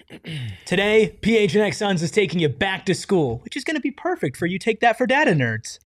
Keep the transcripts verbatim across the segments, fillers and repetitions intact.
Today, P H N X Suns is taking you back to school, which is going to be perfect for You Take That for Data nerds.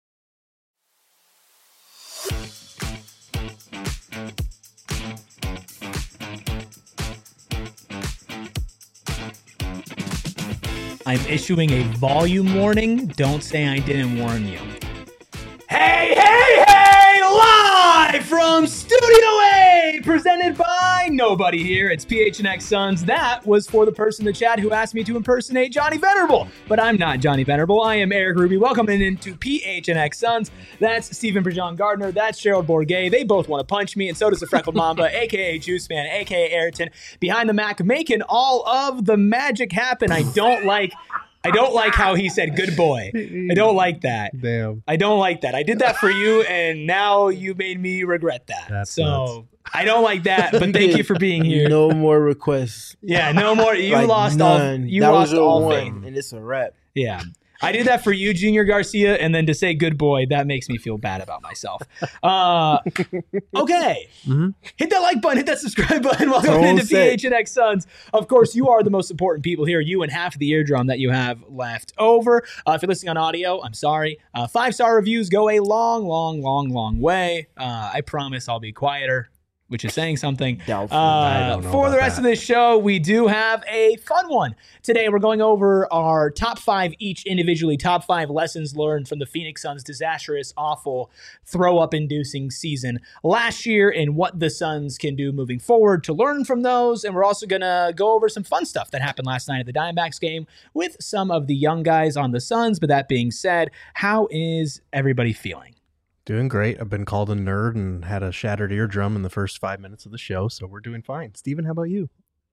I'm issuing a volume warning. Don't say I didn't warn you. Hey, hey, hey! Live from Studio A, presented by nobody here. It's P H N X Suns. That was for the person in the chat who asked me to impersonate Johnny Venerable. But I'm not Johnny Venerable. I am Eric Ruby. Welcome into P H N X Suns. That's Stephen Prejean Gardner. That's Gerald Bourguet. They both want to punch me, and so does the Freckled Mamba, a k a. Juice Man, a k a. Ayrton, behind the Mac, making all of the magic happen. I don't like... I don't like how he said good boy. I don't like that. Damn. I don't like that. I did that for you, and now you made me regret that. That's so nuts. I don't like that, but thank you for being here. No more requests. Yeah, no more. You Like, lost none. all. You that lost was your all one, faith. and it's a wrap. Yeah. I did that for you, Junior Garcia, and then to say good boy, that makes me feel bad about myself. Uh, okay. Mm-hmm. Hit that like button, hit that subscribe button. Welcome Tone into set. P H N X Suns. Of course, you are the most important people here, you and half of the eardrum that you have left over. Uh, if you're listening on audio, I'm sorry. Uh, five-star reviews go a long, long, long, long way. Uh, I promise I'll be quieter, which is saying something. Doubtful. I Uh, don't know for the about rest that. of this show, we do have a fun one. Today, we're going over our top five each individually, top five lessons learned from the Phoenix Suns' disastrous, awful, throw-up-inducing season last year and what the Suns can do moving forward to learn from those. And we're also going to go over some fun stuff that happened last night at the Diamondbacks game with some of the young guys on the Suns. But that being said, how is everybody feeling? Doing great. I've been called a nerd and had a shattered eardrum in the first five minutes of the show, so we're doing fine. Steven, how about you?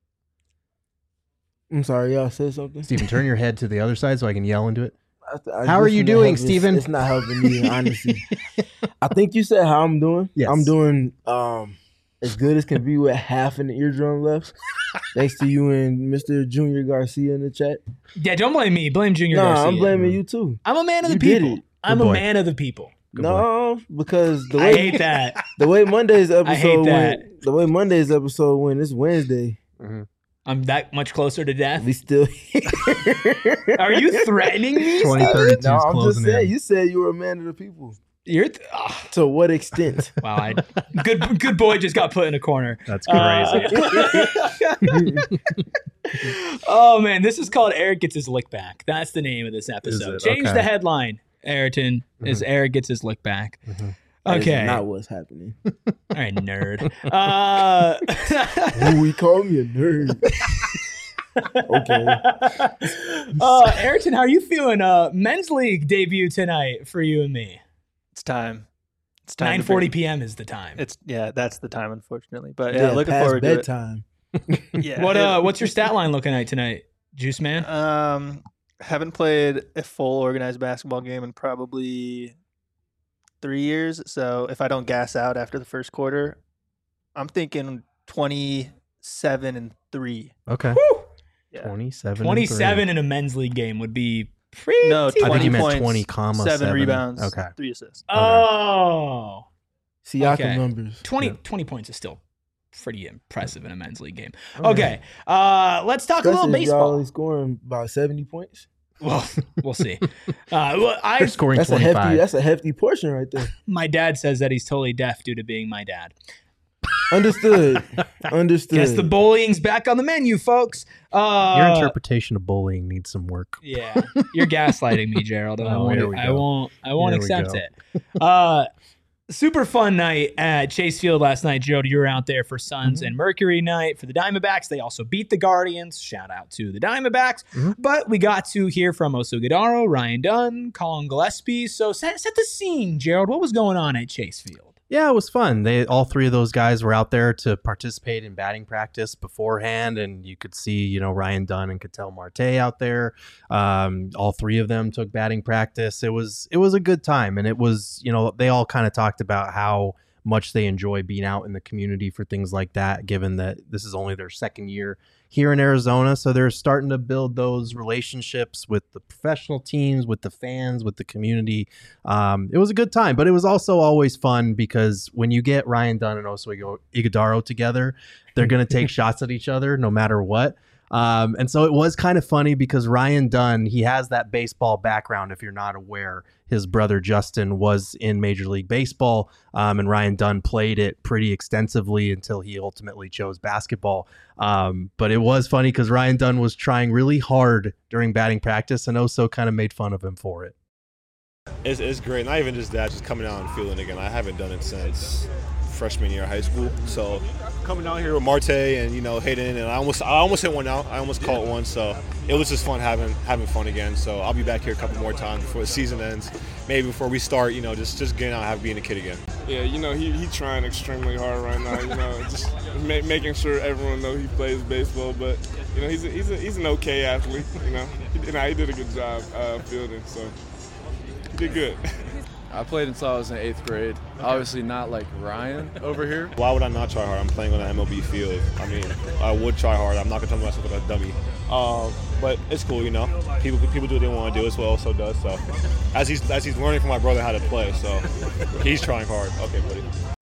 I'm sorry, y'all said something. Steven, turn your head to the other side so I can yell into it. I- I- How are this you is not doing, helping- Steven? It's not helping me, honestly. I think you said how I'm doing. Yes. I'm doing um as good as can be with half an eardrum left. Thanks to you and Mister Junior Garcia in the chat. Yeah, don't blame me. Blame Junior No, Garcia. I'm blaming you too. I'm a man of the You did people. it. I'm Good a boy. man of the people. Good no, because the I way hate that. the way Monday's episode I hate that. went, the way Monday's episode went, it's Wednesday. I'm that much closer to death. We still Are you threatening me? twenty Steven? thirty-two No, is I'm just closing saying. in. You said you were a man of the people. You're th- oh, To what extent? wow. I, good, good boy just got put in a corner. That's crazy. Uh, oh man, this is called Eric Gets His Lick Back. That's the name of this episode. it? Change Okay. the headline, Ayrton, is Eric Gets His Lick Back. Mhm. That is Okay. not what's happening. All right, nerd. Uh, Ooh, he called me a nerd. Okay. uh, Ayrton, how are you feeling? Uh, men's league debut tonight for you and me. It's time. It's time. nine to forty bring- p.m. is the time. It's yeah, that's the time, unfortunately. But yeah, looking past forward bedtime. to it. Yeah. What it- uh, what's your stat line looking like tonight, Juice Man? Um, haven't played a full organized basketball game in probably three years. So if I don't gas out after the first quarter, I'm thinking twenty-seven and three. Okay. Yeah. twenty-seven. and twenty-seven in a men's league game would be pretty. No, three. I think you twenty meant points, twenty comma seven, seven. rebounds, Okay. three assists. Oh, Siakam Okay. numbers. twenty, Yeah. twenty points is still pretty impressive in a men's league game. Okay, uh, let's talk a Especially little if y'all baseball. only scoring about seventy points. Well, we'll see. Uh, well, I They're scoring That's a twenty-five. hefty. That's a hefty portion right there. my dad says that he's totally deaf due to being my dad. Understood. Understood. Guess the bullying's back on the menu, folks. Uh, Your interpretation of bullying needs some work. Yeah, you're gaslighting me, Gerald. And I Oh, won't. here we I go. won't. I won't Here we accept go. it. Uh, super fun night at Chase Field last night, Gerald. You were out there for Suns Mhm. and Mercury night for the Diamondbacks. They also beat the Guardians. Shout out to the Diamondbacks. Mhm. But we got to hear from Osugidaro, Ryan Dunn, Colin Gillespie. So set, set the scene, Gerald. What was going on at Chase Field? Yeah, it was fun. They all three of those guys were out there to participate in batting practice beforehand, and you could see, you know, Ryan Dunn and Ketel Marte out there. Um, all three of them took batting practice. It was it was a good time, and it was, you know, they all kind of talked about how much they enjoy being out in the community for things like that, given that this is only their second year here in Arizona. So they're starting to build those relationships with the professional teams, with the fans, with the community. Um, it was a good time, but it was also always fun because when you get Ryan Dunn and Oso Ighodaro together, they're going to take shots at each other no matter what. Um, and so it was kind of funny because Ryan Dunn, he has that baseball background. If you're not aware, his brother Justin was in Major League Baseball, um, and Ryan Dunn played it pretty extensively until he ultimately chose basketball. Um, but it was funny because Ryan Dunn was trying really hard during batting practice, and Oso kind of made fun of him for it. It's, it's great. Not even just that, just coming out and feeling again. I haven't done it since freshman year of high school. So coming out here with Marte and, you know, Hayden, and I almost I almost hit one out. I almost caught one. So it was just fun having having fun again. So I'll be back here a couple more times before the season ends. Maybe before we start, you know, just, just getting out and have, being a kid again. Yeah, you know, he he trying extremely hard right now, you know, just ma- making sure everyone knows he plays baseball. But, you know, he's a, he's a, he's an okay athlete, you know. He, you know, he did a good job uh, fielding, so he did good. I played until I was in eighth grade. Obviously not like Ryan over here. Why would I not try hard? I'm playing on an M L B field. I mean, I would try hard. I'm not going to tell myself like a dummy. Uh, but it's cool, you know. People people do what they want to do. It's what Oso does. So as he's as he's learning from my brother how to play, so he's trying hard. Okay, buddy.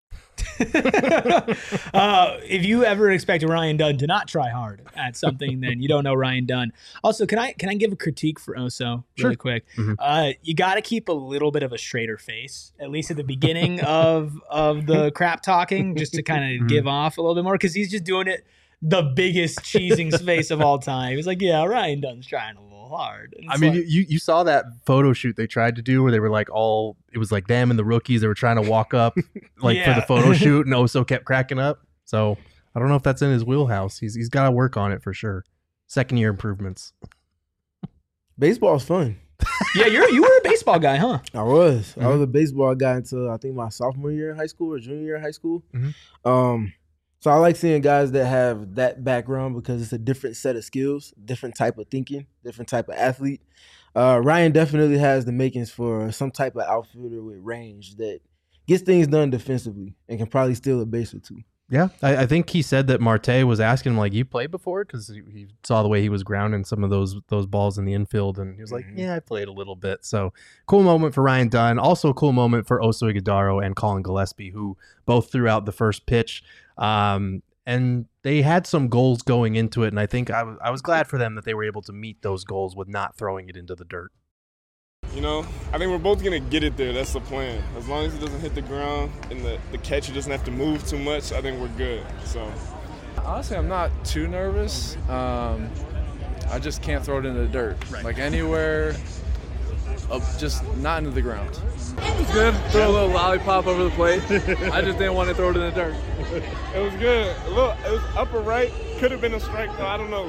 uh, if you ever expect Ryan Dunn to not try hard at something, then you don't know Ryan Dunn. Also, can I can I give a critique for Oso really Sure. quick? Mm-hmm. Uh, you got to keep a little bit of a straighter face, at least at the beginning of of the crap talking, just to kind of Mm-hmm. give off a little bit more, because he's just doing it the biggest cheesing face of all time. He's like, yeah, Ryan Dunn's trying a little hard. And I it's mean, like- you you saw that photo shoot they tried to do where they were like all, it was like them and the rookies. They were trying to walk up like for Yeah. the photo shoot, and Oso kept cracking up. So I don't know if that's in his wheelhouse. He's he's got to work on it for sure. Second year improvements. Baseball's fun. yeah, you're you were a baseball guy, huh? I was. I Mhm. was a baseball guy until I think my sophomore year in high school or junior year in high school. Mhm. Um, so I like seeing guys that have that background because it's a different set of skills, different type of thinking, different type of athlete. Uh, Ryan definitely has the makings for some type of outfielder with range that gets things done defensively and can probably steal a base or two. Yeah, I, I think he said that Marte was asking him like, "You played before?" Because he, he saw the way he was grounding some of those those balls in the infield, and he was like, Mhm. "Yeah, I played a little bit." So cool moment for Ryan Dunn. Also a cool moment for Oso Ighodaro and Colin Gillespie, who both threw out the first pitch. Um, and they had some goals going into it, and I think I was I was glad for them that they were able to meet those goals with not throwing it into the dirt. You know, I think we're both going to get it there. That's the plan. As long as it doesn't hit the ground and the, the catcher doesn't have to move too much, I think we're good. So, Honestly, I'm not too nervous. Um, I just can't throw it into the dirt. Like anywhere, uh, just not into the ground. It was good. Throw a little lollipop over the plate. I just didn't want to throw it in the dirt. it was good. A little, it was upper right. Could have been a strike, though. I don't know.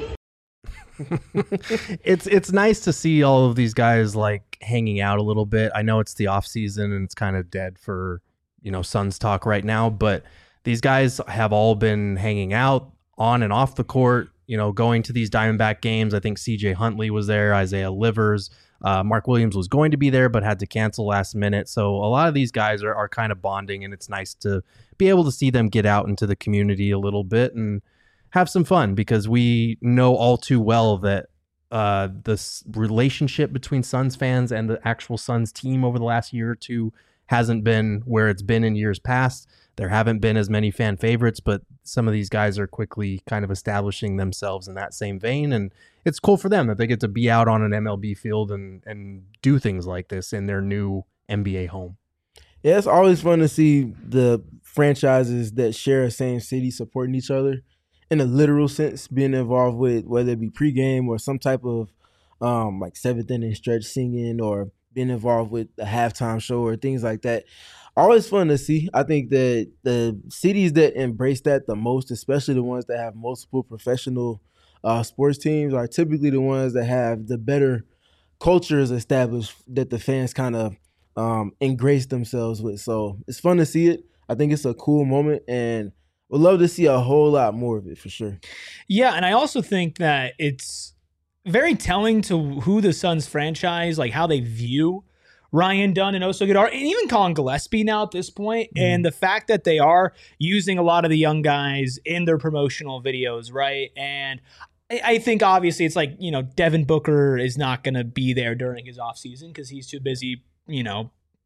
it's it's nice to see all of these guys like hanging out a little bit. I know it's the off season and it's kind of dead for, you know, Suns talk right now, but these guys have all been hanging out on and off the court, you know, going to these Diamondback games. I think C J Huntley was there, Isaiah Livers, uh, Mark Williams was going to be there but had to cancel last minute. So a lot of these guys are, are kind of bonding, and it's nice to be able to see them get out into the community a little bit and have some fun, because we know all too well that uh, this relationship between Suns fans and the actual Suns team over the last year or two hasn't been where it's been in years past. There haven't been as many fan favorites, but some of these guys are quickly kind of establishing themselves in that same vein. And it's cool for them that they get to be out on an M L B field and, and do things like this in their new N B A home. Yeah, it's always fun to see the franchises that share a same city supporting each other in a literal sense, being involved with whether it be pregame or some type of um, like seventh inning stretch singing, or being involved with a halftime show or things like that. Always fun to see. I think that the cities that embrace that the most, especially the ones that have multiple professional uh, sports teams, are typically the ones that have the better cultures established that the fans kind of um, ingrace themselves with. So it's fun to see it. I think it's a cool moment, and would love to see a whole lot more of it for sure. Yeah, and I also think that it's very telling to who the Suns franchise, like how they view Ryan Dunn and Oso Ighodaro, and even Colin Gillespie now at this point, Mm-hmm. and the fact that they are using a lot of the young guys in their promotional videos, right? And I, I think obviously it's like, you know, Devin Booker is not going to be there during his offseason because he's too busy, you know,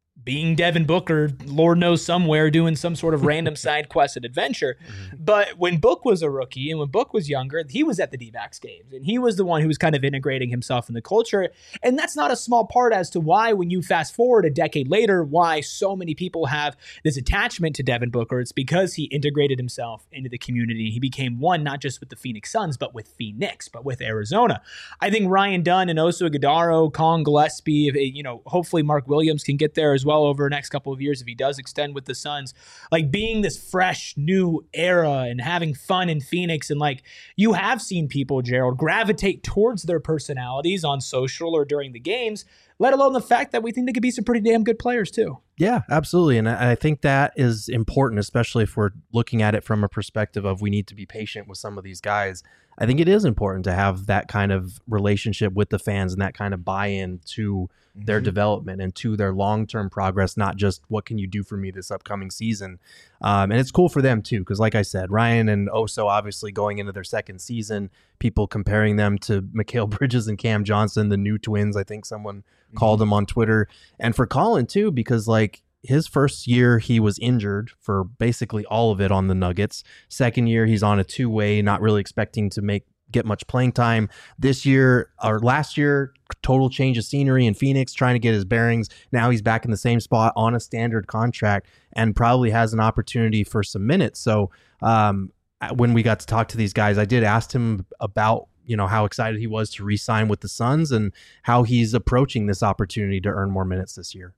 being Devin Booker, Lord knows somewhere, doing some sort of random side quest and adventure. Mm-hmm. But when Book was a rookie and when Book was younger, he was at the D-backs games, and he was the one who was kind of integrating himself in the culture. And that's not a small part as to why, when you fast forward a decade later, why so many people have this attachment to Devin Booker. It's because he integrated himself into the community. He became one, not just with the Phoenix Suns, but with Phoenix, but with Arizona. I think Ryan Dunn and Oso Ighodaro, Colin Gillespie, if, you know, hopefully Mark Williams can get there as well over the next couple of years if he does extend with the Suns. Like, being this fresh new era and having fun in Phoenix, and like, you have seen people, Gerald, gravitate towards their personalities on social or during the games, let alone the fact that we think they could be some pretty damn good players too. Yeah, absolutely. And I think that is important, especially if we're looking at it from a perspective of we need to be patient with some of these guys. I think it is important to have that kind of relationship with the fans and that kind of buy-in to mm-hmm. their development and to their long-term progress, not just what can you do for me this upcoming season. Um, and it's cool for them too, because like I said, Ryan and Oso obviously going into their second season, people comparing them to Mikal Bridges and Cam Johnson, the new twins, I think someone mm-hmm. called them on Twitter. And for Colin too, because like, his first year, he was injured for basically all of it on the Nuggets. Second year, he's on a two-way, not really expecting to make get much playing time. This year, or last year, total change of scenery in Phoenix, trying to get his bearings. Now he's back in the same spot on a standard contract and probably has an opportunity for some minutes. So um, when we got to talk to these guys, I did ask him about you know how excited he was to re-sign with the Suns and how he's approaching this opportunity to earn more minutes this year.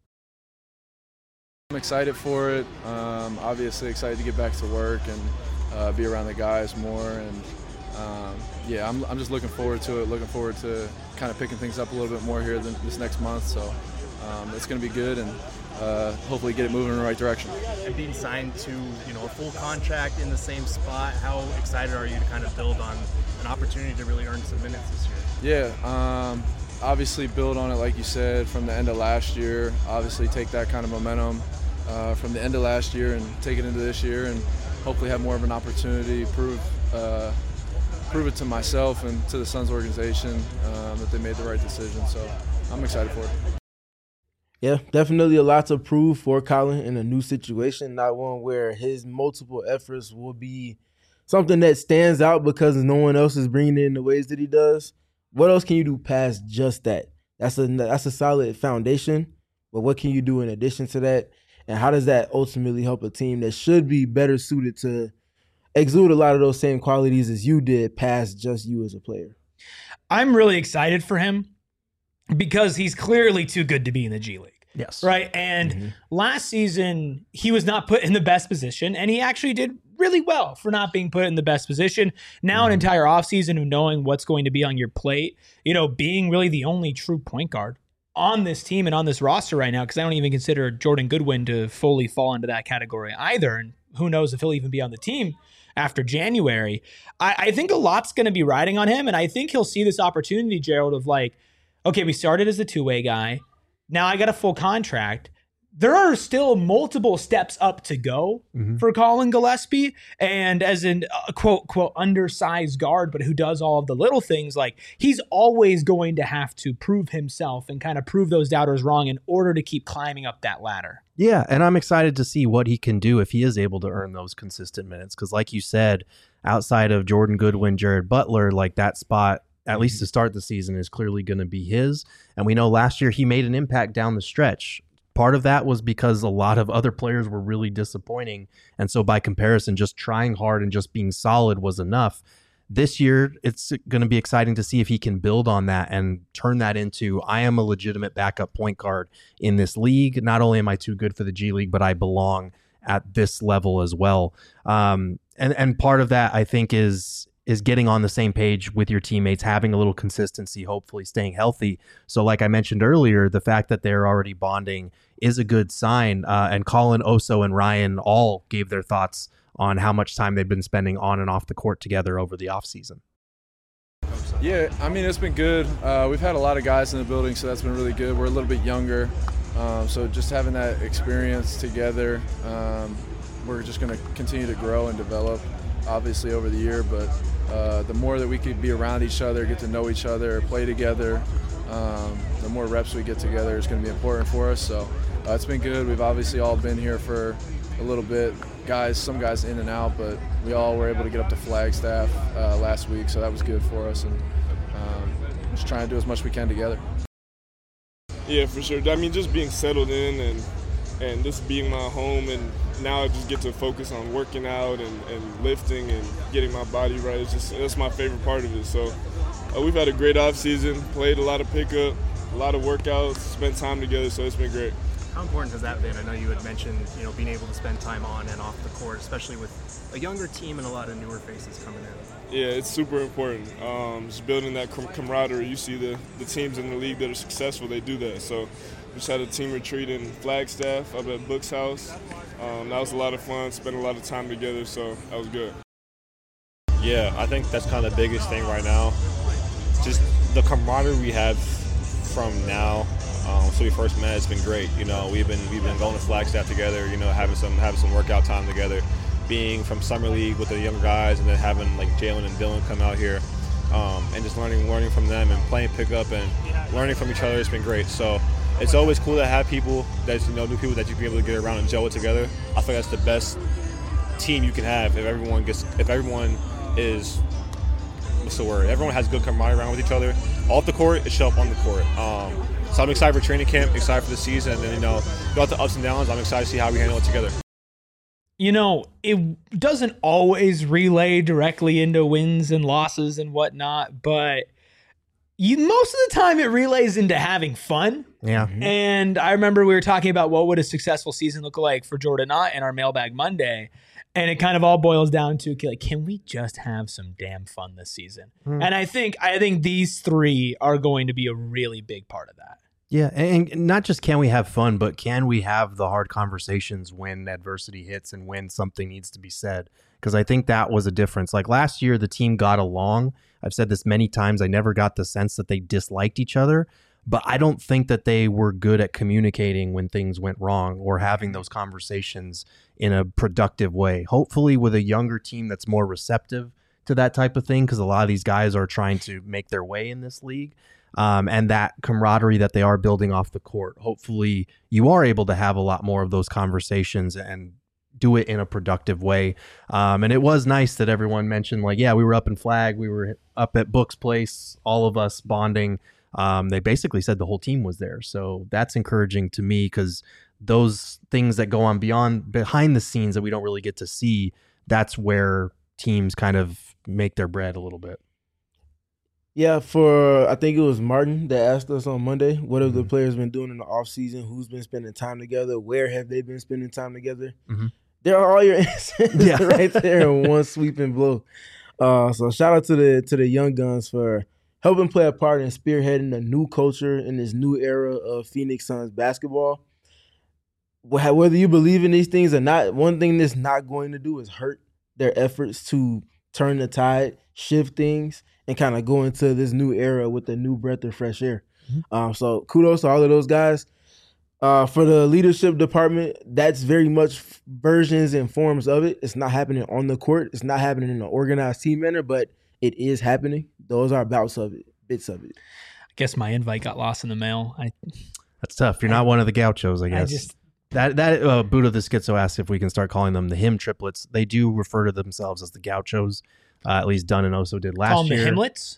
I'm excited for it. Um, obviously excited to get back to work and uh, be around the guys more. And um, yeah, I'm, I'm just looking forward to it. Looking forward to kind of picking things up a little bit more here than this next month. So um, it's going to be good, and uh, hopefully get it moving in the right direction. And being signed to you know a full contract in the same spot, how excited are you to kind of build on an opportunity to really earn some minutes this year? Yeah. Um, obviously build on it, like you said, from the end of last year. Obviously take that kind of momentum Uh, from the end of last year and take it into this year, and hopefully have more of an opportunity, prove uh, prove it to myself and to the Suns organization um, that they made the right decision. So I'm excited for it. Yeah, definitely a lot to prove for Colin in a new situation, not one where his multiple efforts will be something that stands out because no one else is bringing it in the ways that he does. What else can you do past just that? That's a that's a solid foundation, but what can you do in addition to that? And how does that ultimately help a team that should be better suited to exude a lot of those same qualities as you did past just you as a player? I'm really excited for him because he's clearly too good to be in the G League. Yes. Right. And Mm-hmm. last season, he was not put in the best position, and he actually did really well for not being put in the best position. Now, an entire offseason of knowing what's going to be on your plate, you know, being really the only true point guard on this team and on this roster right now, because I don't even consider Jordan Goodwin to fully fall into that category either. And who knows if he'll even be on the team after January. I, I think a lot's going to be riding on him. And I think he'll see this opportunity, Gerald, of like, okay, we started as a two-way guy. Now I got a full contract. There are still multiple steps up to go mm-hmm. for Colin Gillespie. And as an uh, quote, quote, undersized guard, but who does all of the little things, like he's always going to have to prove himself and kind of prove those doubters wrong in order to keep climbing up that ladder. Yeah, and I'm excited to see what he can do if he is able to earn those consistent minutes. Because like you said, outside of Jordan Goodwin, Jared Butler, like that spot, at least to start the season, is clearly going to be his. And we know last year he made an impact down the stretch. Part of that was because a lot of other players were really disappointing. And so by comparison, just trying hard and just being solid was enough. This year, it's going to be exciting to see if he can build on that and turn that into, I am a legitimate backup point guard in this league. Not only am I too good for the G League, but I belong at this level as well. Um, and, and part of that, I think, is is getting on the same page with your teammates, having a little consistency, hopefully staying healthy. So like I mentioned earlier, the fact that they're already bonding is a good sign. Uh, and Colin, Oso, and Ryan all gave their thoughts on how much time they've been spending on and off the court together over the offseason. Yeah, I mean, it's been good. Uh, we've had a lot of guys in the building, so that's been really good. We're a little bit younger, um, so just having that experience together, um, we're just going to continue to grow and develop, obviously, over the year. But uh, the more that we could be around each other, get to know each other, play together, um, the more reps we get together is going to be important for us. So Uh, it's been good. We've obviously all been here for a little bit. Guys, some guys in and out, but we all were able to get up to Flagstaff uh, last week, so that was good for us. And um, just trying to do as much as we can together. Yeah, for sure. I mean, just being settled in and and this being my home, and now I just get to focus on working out and, and lifting and getting my body right. It's just that's my favorite part of it. So uh, we've had a great off season, played a lot of pickup, a lot of workouts, spent time together. So it's been great. How important has that been? I know you had mentioned, you know, being able to spend time on and off the court, especially with a younger team and a lot of newer faces coming in. Yeah, it's super important. Um, just building that com- camaraderie. You see the, the teams in the league that are successful, they do that. So we just had a team retreat in Flagstaff up at Book's house. Um, that was a lot of fun, spent a lot of time together, so that was good. Yeah, I think that's kind of the biggest thing right now. Just the camaraderie we have from now. Um, so we first met, it's been great. You know, we've been we've been going to Flagstaff together. You know, having some having some workout time together. Being from summer league with the younger guys, and then having like Jalen and Dylan come out here, um, and just learning learning from them and playing pickup and learning from each other. It's been great. So it's always cool to have people that you know, new people that you can be able to get around and gel with together. I think that's the best team you can have if everyone gets if everyone is what's the word? Everyone has good camaraderie around with each other. Off the court, it show up on the court. Um, So I'm excited for training camp, excited for the season, and then, you know, throughout the ups and downs, I'm excited to see how we handle it together. You know, it doesn't always relay directly into wins and losses and whatnot, but you most of the time it relays into having fun. Yeah. And I remember we were talking about what would a successful season look like for Jordan Knott in our Mailbag Monday. And it kind of all boils down to, like, can we just have some damn fun this season? Mm. And I think I think these three are going to be a really big part of that. Yeah, and not just can we have fun, but can we have the hard conversations when adversity hits and when something needs to be said? Because I think that was a difference. Like last year, the team got along. I've said this many times. I never got the sense that they disliked each other, but I don't think that they were good at communicating when things went wrong or having those conversations in a productive way. Hopefully with a younger team that's more receptive to that type of thing, because a lot of these guys are trying to make their way in this league. Um, and that camaraderie that they are building off the court. Hopefully you are able to have a lot more of those conversations and do it in a productive way. Um, and it was nice that everyone mentioned, like, yeah, we were up in Flag. We were up at Book's place, all of us bonding. Um, they basically said the whole team was there. So that's encouraging to me, because those things that go on beyond, behind the scenes that we don't really get to see, that's where teams kind of make their bread a little bit. Yeah, for I think it was Martin that asked us on Monday, what have mm-hmm. the players been doing in the offseason? Who's been spending time together? Where have they been spending time together? Mm-hmm. There are all your answers yeah. right there in one sweeping blow. Uh, so shout out to the to the young guns for helping play a part in spearheading a new culture in this new era of Phoenix Suns basketball. Whether you believe in these things or not, one thing this not going to do is hurt their efforts to turn the tide, shift things, and kind of go into this new era with a new breath of fresh air. Mm-hmm. Um, so kudos to all of those guys. Uh, for the leadership department, that's very much versions and forms of it. It's not happening on the court. It's not happening in an organized team manner, but it is happening. Those are bouts of it, bits of it. I guess my invite got lost in the mail. I, That's tough. You're I, not one of the gauchos, I guess. I just, that that uh, Buddha the Schizo asked if we can start calling them the Him Triplets. They do refer to themselves as the Gauchos. Uh, at least Dunn and Oso did last Call them year. The Himlets?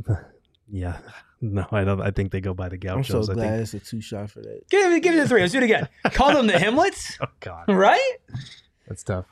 Yeah. No, I don't. I think they go by the Gauchos. I'm so glad I think. it's a two shot for that. Give it, give it a three. Let's do it again. Call them the Himlets? Oh, God. Right? That's tough.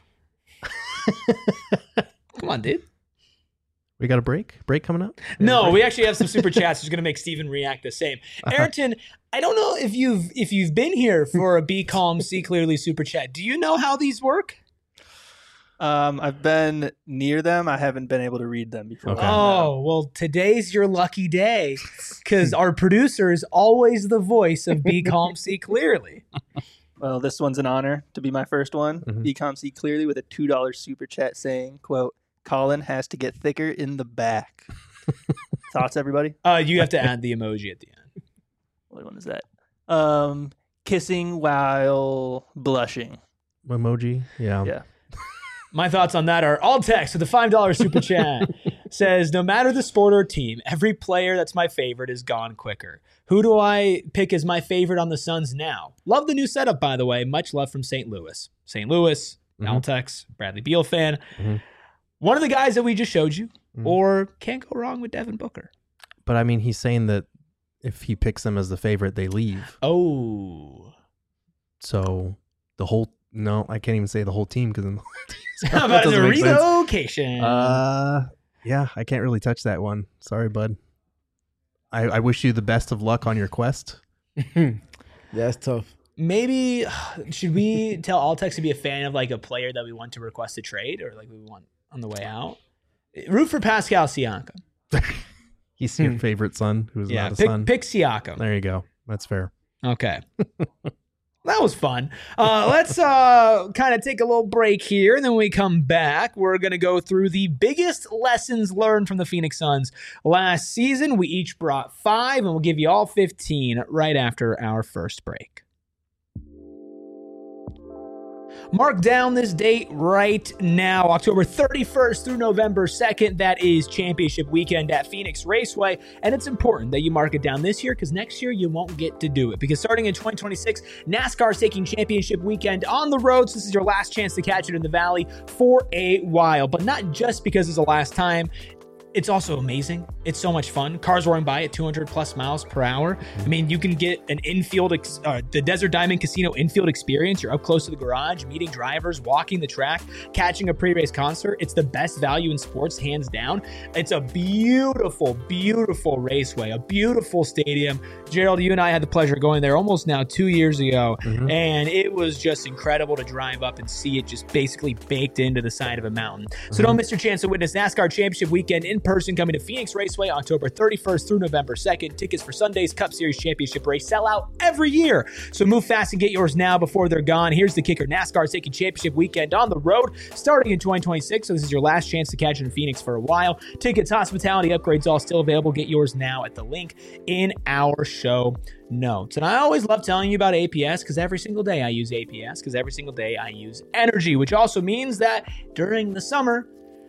Come on, dude. We got a break? Break coming up? No, break? we actually have some super chats. Who's going to make Steven react the same. Ayrton, I don't know if you've if you've been here for a Be Calm, See Clearly super chat. Do you know how these work? Um, I've been near them. I haven't been able to read them before. Okay. Oh, well, today's your lucky day, because our producer is always the voice of Be Calm, See Clearly. Well, this one's an honor to be my first one. Mm-hmm. Be Calm, See Clearly with a two dollar super chat saying, quote, Colin has to get thicker in the back. Thoughts, everybody? Uh, you have to add the emoji at the end. What one is that? Um, kissing while blushing. Emoji? Yeah. Yeah. My thoughts on that are all text with a five dollar super chat. says, no matter the sport or team, every player that's my favorite is gone quicker. Who do I pick as my favorite on the Suns now? Love the new setup, by the way. Much love from Saint Louis. Saint Louis, mm-hmm. Altex, Bradley Beal fan. Mm-hmm. One of the guys that we just showed you, mm-hmm. or can't go wrong with Devin Booker. But I mean, he's saying that if he picks them as the favorite, they leave. Oh. So the whole, no, I can't even say the whole team because how about the relocation? Uh, yeah, I can't really touch that one. Sorry, bud. I, I wish you the best of luck on your quest. That's tough. Maybe, should we tell Altex to be a fan of like a player that we want to request a trade or like we want on the way out? Root for Pascal Siakam. He's your favorite son who's yeah, not a pick, son. Pick Siakam. There you go. That's fair. Okay. That was fun. Uh, let's uh, kind of take a little break here, and then when we come back, we're going to go through the biggest lessons learned from the Phoenix Suns last season. We each brought five, and we'll give you all fifteen right after our first break. Mark down this date right now, October thirty-first through November second. That is championship weekend at Phoenix Raceway. And it's important that you mark it down this year because next year you won't get to do it. Because starting in twenty twenty-six, NASCAR is taking championship weekend on the road. So this is your last chance to catch it in the Valley for a while. But not just because it's the last time. It's also amazing. It's so much fun. Cars roaring by at two hundred plus miles per hour. I mean, you can get an infield, ex- uh, the Desert Diamond Casino infield experience. You're up close to the garage, meeting drivers, walking the track, catching a pre-race concert. It's the best value in sports, hands down. It's a beautiful, beautiful raceway, a beautiful stadium. Gerald, you and I had the pleasure of going there almost now two years ago, mm-hmm. and it was just incredible to drive up and see it just basically baked into the side of a mountain. So mm-hmm. don't miss your chance to witness NASCAR Championship Weekend in person coming to Phoenix Raceway October thirty-first through November second. Tickets for Sunday's Cup Series Championship race sell out every year. So move fast and get yours now before they're gone. Here's the kicker. NASCAR is taking championship weekend on the road starting in twenty twenty-six. So this is your last chance to catch it in Phoenix for a while. Tickets, hospitality, upgrades, all still available. Get yours now at the link in our show notes. And I always love telling you about A P S because every single day I use A P S because every single day I use energy, which also means that during the summer,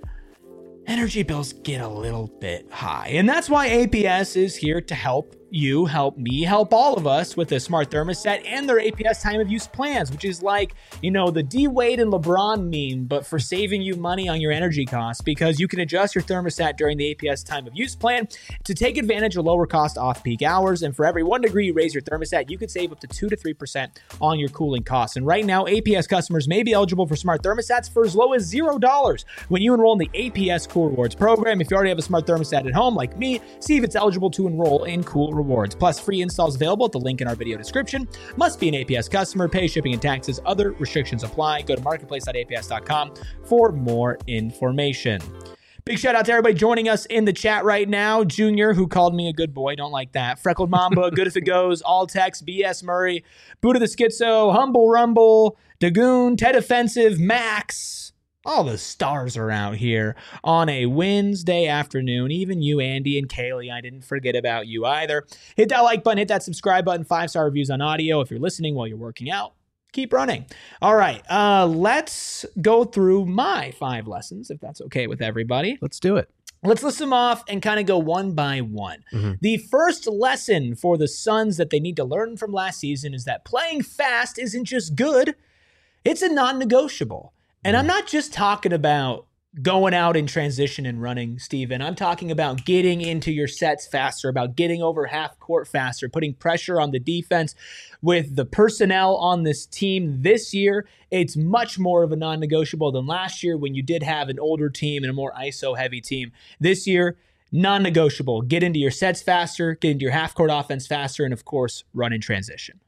energy bills get a little bit high. And that's why A P S is here to help you, help me, help all of us with a smart thermostat and their A P S time of use plans, which is like, you know, the D Wade and LeBron meme, but for saving you money on your energy costs because you can adjust your thermostat during the A P S time of use plan to take advantage of lower cost off-peak hours. And for every one degree you raise your thermostat, you could save up to two to three percent on your cooling costs. And right now, A P S customers may be eligible for smart thermostats for as low as zero dollars when you enroll in the A P S Cool Rewards program. If you already have a smart thermostat at home, like me, see if it's eligible to enroll in Cool Rewards. Plus, free installs available at the link in our video description. Must be an A P S customer. Pay shipping and taxes. Other restrictions apply. Go to marketplace dot A P S dot com for more information. Big shout out to everybody joining us in the chat right now. Junior, who called me a good boy. Don't like that. Freckled Mamba, Good If It Goes, Altex, B S Murray, Buddha the Schizo, Humble Rumble, Dagoon, Ted Offensive, Max. All the stars are out here on a Wednesday afternoon. Even you, Andy and Kaylee, I didn't forget about you either. Hit that like button, hit that subscribe button, five-star reviews on audio. If you're listening while you're working out, keep running. All right, uh, let's go through my five lessons, if that's okay with everybody. Let's do it. Let's list them off and kind of go one by one. Mm-hmm. The first lesson for the Suns that they need to learn from last season is that playing fast isn't just good, it's a non-negotiable. And I'm not just talking about going out in transition and running, Steven. I'm talking about getting into your sets faster, about getting over half court faster, putting pressure on the defense. With the personnel on this team this year, it's much more of a non-negotiable than last year when you did have an older team and a more I S O-heavy team. This year, non-negotiable. Get into your sets faster, get into your half-court offense faster, and, of course, run in transition.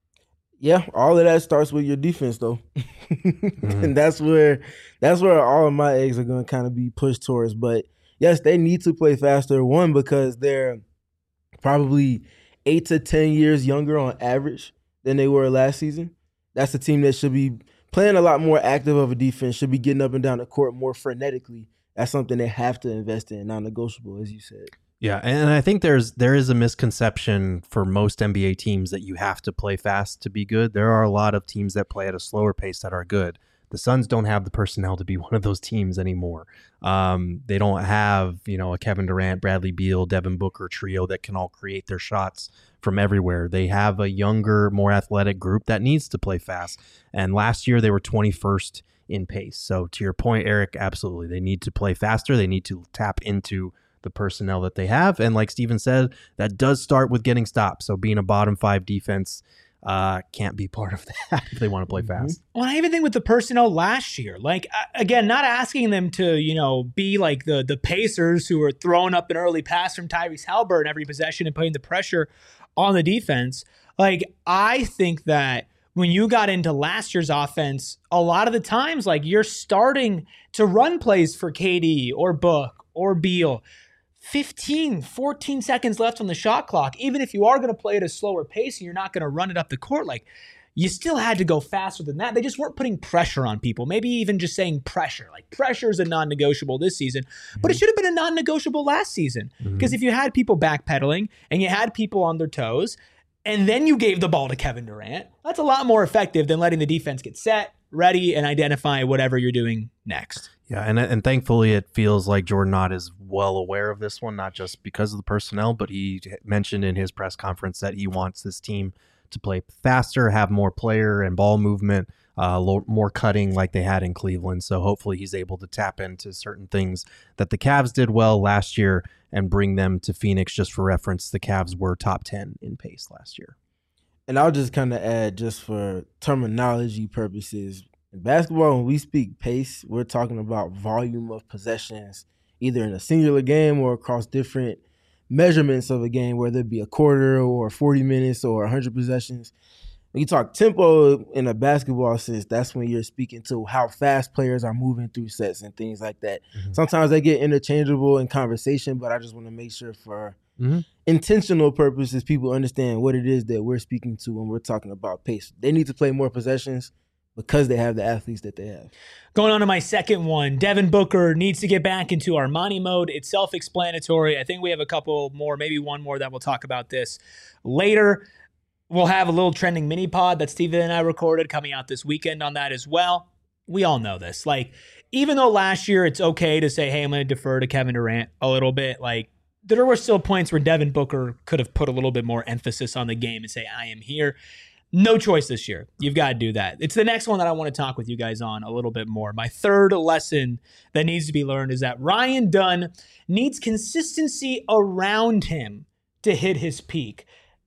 Yeah, all of that starts with your defense, though. mm-hmm. And that's where that's where all of my eggs are going to kind of be pushed towards. But, yes, they need to play faster, one, because they're probably eight to ten years younger on average than they were last season. That's a team that should be playing a lot more active of a defense, should be getting up and down the court more frenetically. That's something they have to invest in, non-negotiable, as you said. Yeah, and I think there's there is a misconception for most N B A teams that you have to play fast to be good. There are a lot of teams that play at a slower pace that are good. The Suns don't have the personnel to be one of those teams anymore. Um, they don't have, you know, a Kevin Durant, Bradley Beal, Devin Booker trio that can all create their shots from everywhere. They have a younger, more athletic group that needs to play fast. And last year they were twenty-first in pace. So to your point, Eric, absolutely. They need to play faster. They need to tap into the personnel that they have. And like Steven said, that does start with getting stops. So being a bottom five defense uh, can't be part of that if they want to play fast. Well, I even think with the personnel last year, like, again, not asking them to, you know, be like the the Pacers who are throwing up an early pass from Tyrese Haliburton every possession and putting the pressure on the defense. Like, I think that when you got into last year's offense, a lot of the times, like, you're starting to run plays for K D or Book or Beal. fifteen, fourteen seconds left on the shot clock. Even if you are going to play at a slower pace and you're not going to run it up the court, like, you still had to go faster than that. They just weren't putting pressure on people. Maybe even just saying pressure. Like, pressure is a non-negotiable this season, mm-hmm. but it should have been a non-negotiable last season. Because mm-hmm. if you had people backpedaling and you had people on their toes, and then you gave the ball to Kevin Durant, that's a lot more effective than letting the defense get set, ready, and identify whatever you're doing next. Yeah, and and thankfully it feels like Jordan Knott is well aware of this one, not just because of the personnel, but he mentioned in his press conference that he wants this team to play faster, have more player and ball movement, uh, more cutting like they had in Cleveland. So hopefully he's able to tap into certain things that the Cavs did well last year and bring them to Phoenix. Just for reference, the Cavs were top ten in pace last year. And I'll just kind of add, just for terminology purposes, in basketball, when we speak pace, we're talking about volume of possessions, either in a singular game or across different measurements of a game, whether it be a quarter or forty minutes or one hundred possessions. When you talk tempo in a basketball sense, that's when you're speaking to how fast players are moving through sets and things like that. Mm-hmm. Sometimes they get interchangeable in conversation, but I just want to make sure for mm-hmm. intentional purposes, people understand what it is that we're speaking to when we're talking about pace. They need to play more possessions because they have the athletes that they have. Going on to my second one, Devin Booker needs to get back into Armani mode. It's self-explanatory. I think we have a couple more, maybe one more that we'll talk about this later. We'll have a little trending mini pod that Steven and I recorded coming out this weekend on that as well. We all know this. Like, even though last year it's okay to say, hey, I'm going to defer to Kevin Durant a little bit, like, there were still points where Devin Booker could have put a little bit more emphasis on the game and say, I am here. No choice this year. You've got to do that. It's the next one that I want to talk with you guys on a little bit more. My third lesson that needs to be learned is that Ryan Dunn needs consistency around him to hit his peak.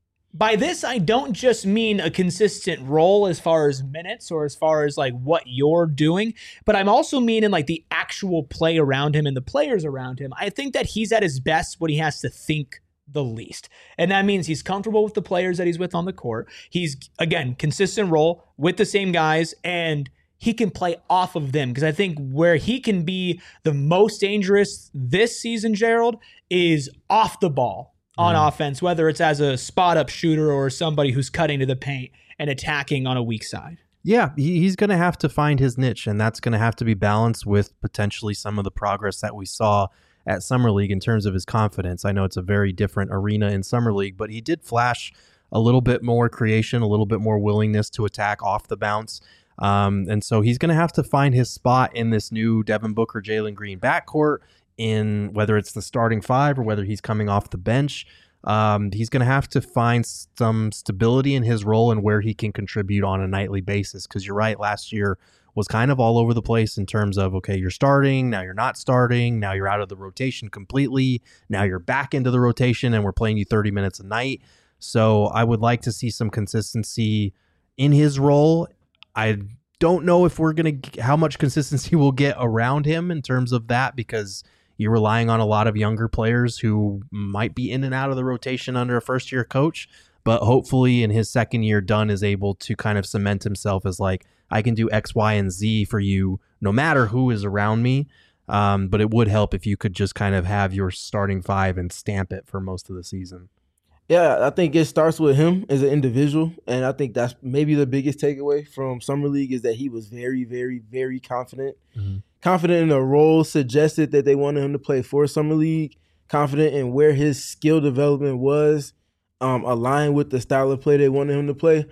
By this, I don't just mean a consistent role as far as minutes or as far as like what you're doing, but I'm also meaning like the actual play around him and the players around him. I think that he's at his best when he has to think the least. And that means he's comfortable with the players that he's with on the court. He's, again, consistent role with the same guys, and he can play off of them. Because I think where he can be the most dangerous this season, Gerald, is off the ball on mm. offense, whether it's as a spot-up shooter or somebody who's cutting to the paint and attacking on a weak side. Yeah, he, he's going to have to find his niche, and that's going to have to be balanced with potentially some of the progress that we saw at Summer League in terms of his confidence. I know it's a very different arena in Summer League, but he did flash a little bit more creation, a little bit more willingness to attack off the bounce. Um, and so he's going to have to find his spot in this new Devin Booker, Jalen Green backcourt, in whether it's the starting five or whether he's coming off the bench. Um, he's going to have to find some stability in his role and where he can contribute on a nightly basis. Because you're right, last year was kind of all over the place in terms of, okay, you're starting, now you're not starting, now you're out of the rotation completely, now you're back into the rotation and we're playing you thirty minutes a night. So I would like to see some consistency in his role. I don't know if we're going to, how much consistency we'll get around him in terms of that, because you're relying on a lot of younger players who might be in and out of the rotation under a first-year coach. But hopefully in his second year, Dunn is able to kind of cement himself as like, I can do X, Y, and Z for you no matter who is around me. Um, but it would help if you could just kind of have your starting five and stamp it for most of the season. Yeah, I think it starts with him as an individual. And I think that's maybe the biggest takeaway from Summer League is that he was very, very, very confident. Mm-hmm. Confident in the role suggested that they wanted him to play for Summer League. Confident in where his skill development was, um, aligned with the style of play they wanted him to play.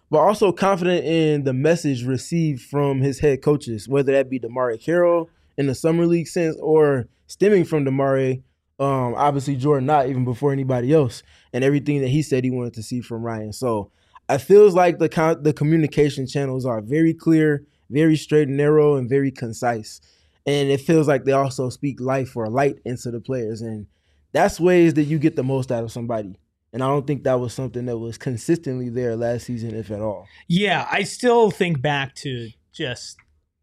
but also confident in the message received from his head coaches, whether that be DeMarre Carroll in the summer league sense or stemming from DeMarre, um, obviously Jordan Knott even before anybody else, and everything that he said he wanted to see from Ryan. So it feels like the con- the communication channels are very clear, very straight and narrow, and very concise. And it feels like they also speak life or light into the players. And that's ways that you get the most out of somebody. And I don't think that was something that was consistently there last season, if at all. Yeah, I still think back to just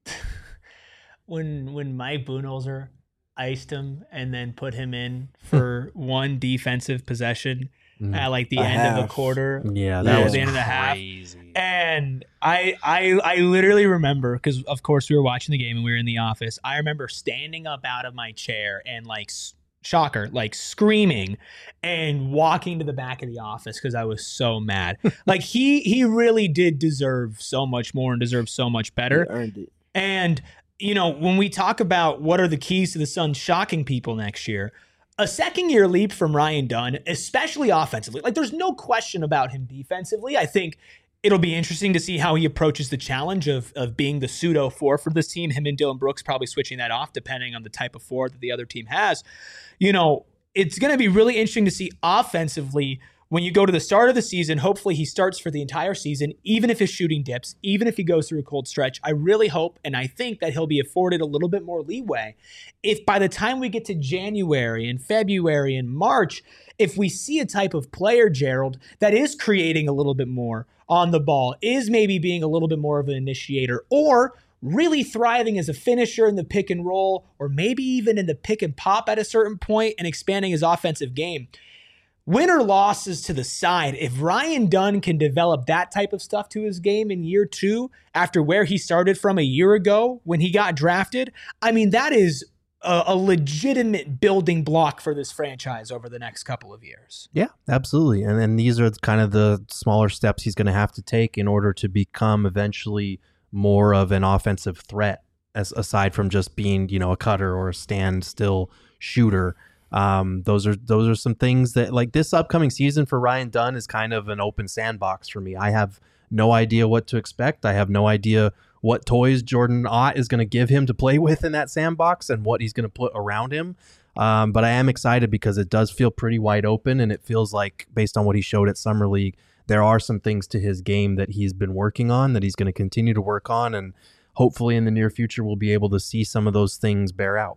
when when Mike Budenholzer iced him and then put him in for one defensive possession mm. at like the a end half. of the quarter. Yeah, that yeah, was the end crazy. of the half. And I I I literally remember, because of course we were watching the game and we were in the office. I remember standing up out of my chair and like. Shocker, like screaming and walking to the back of the office because I was so mad. Like he he really did deserve so much more and deserve so much better. He earned it. And, you know, when we talk about what are the keys to the Suns shocking people next year, a second year leap from Ryan Dunn, especially offensively, like there's no question about him defensively. I think it'll be interesting to see how he approaches the challenge of of being the pseudo four for this team. Him and Dylan Brooks probably switching that off depending on the type of four that the other team has. You know, it's going to be really interesting to see offensively when you go to the start of the season. Hopefully he starts for the entire season, even if his shooting dips, even if he goes through a cold stretch. I really hope and I think that he'll be afforded a little bit more leeway. If by the time we get to January and February and March, if we see a type of player, Gerald, that is creating a little bit more on the ball, is maybe being a little bit more of an initiator, or really thriving as a finisher in the pick and roll, or maybe even in the pick and pop at a certain point and expanding his offensive game. Win or losses to the side, if Ryan Dunn can develop that type of stuff to his game in year two, after where he started from a year ago when he got drafted, I mean, that is a, a legitimate building block for this franchise over the next couple of years. Yeah, absolutely. And then these are kind of the smaller steps he's going to have to take in order to become eventually more of an offensive threat, as aside from just being, you know, a cutter or a stand-still shooter. Um, those are those are some things that, like, this upcoming season for Ryan Dunn is kind of an open sandbox for me. I have no idea what to expect. I have no idea what toys Jordan Ott is going to give him to play with in that sandbox and what he's going to put around him. Um, but I am excited because it does feel pretty wide open, and it feels like, based on what he showed at Summer League, there are some things to his game that he's been working on, that he's going to continue to work on, and hopefully in the near future we'll be able to see some of those things bear out.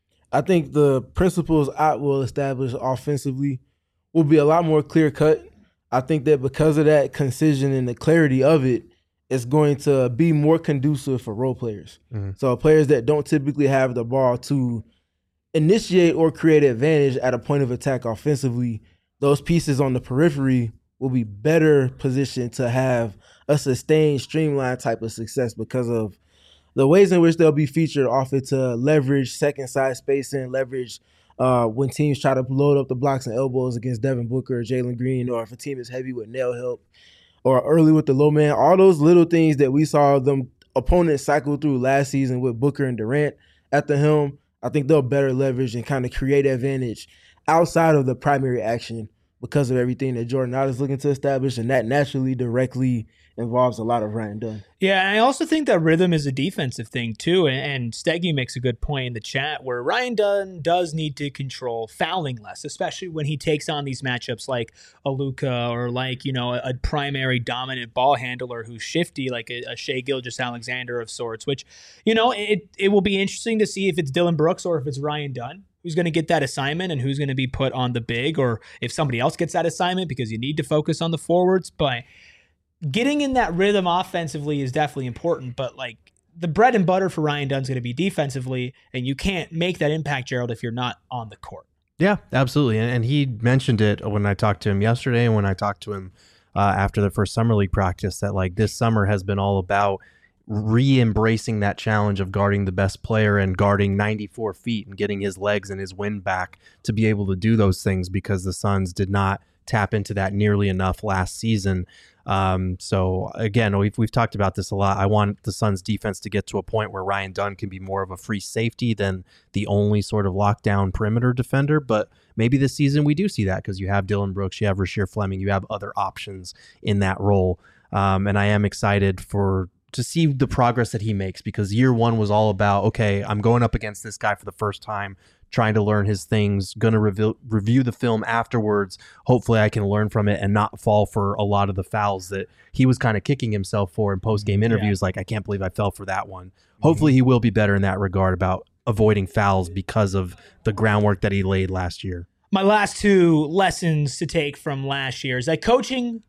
I think the principles Ott will establish offensively will be a lot more clear-cut. I think that because of that concision and the clarity of it, it's going to be more conducive for role players. Mm-hmm. So players that don't typically have the ball to initiate or create advantage at a point of attack offensively, those pieces on the periphery will be better positioned to have a sustained, streamlined type of success because of the ways in which they'll be featured off it to leverage second side spacing, leverage uh, when teams try to load up the blocks and elbows against Devin Booker or Jalen Green, or if a team is heavy with nail help, or early with the low man. All those little things that we saw them opponents cycle through last season with Booker and Durant at the helm, I think they'll better leverage and kind of create advantage outside of the primary action because of everything that Jordan Knott is looking to establish, and that naturally directly involves a lot of Ryan Dunn. Yeah, and I also think that rhythm is a defensive thing too, and Steggy makes a good point in the chat where Ryan Dunn does need to control fouling less, especially when he takes on these matchups like a Luka or like, you know, a, a primary dominant ball handler who's shifty, like a, a Shai Gilgeous-Alexander of sorts, which, you know, it, it will be interesting to see if it's Dylan Brooks or if it's Ryan Dunn who's going to get that assignment and who's going to be put on the big, or if somebody else gets that assignment because you need to focus on the forwards. But getting in that rhythm offensively is definitely important, but like the bread and butter for Ryan Dunn's going to be defensively, and you can't make that impact, Gerald, if you're not on the court. Yeah, absolutely. And, and he mentioned it when I talked to him yesterday and when I talked to him uh, after the first summer league practice, that like this summer has been all about re-embracing that challenge of guarding the best player and guarding ninety-four feet and getting his legs and his wind back to be able to do those things, because the Suns did not tap into that nearly enough last season. Um, so again, we've, we've talked about this a lot. I want the Suns defense to get to a point where Ryan Dunn can be more of a free safety than the only sort of lockdown perimeter defender. But maybe this season we do see that because you have Dylan Brooks, you have Rasheer Fleming, you have other options in that role. Um, and I am excited for to see the progress that he makes, because year one was all about, okay, I'm going up against this guy for the first time, trying to learn his things, going to review, review the film afterwards. Hopefully I can learn from it and not fall for a lot of the fouls that he was kind of kicking himself for in post-game interviews. Yeah. Like, I can't believe I fell for that one. Mm-hmm. Hopefully he will be better in that regard about avoiding fouls because of the groundwork that he laid last year. My last two lessons to take from last year is that coaching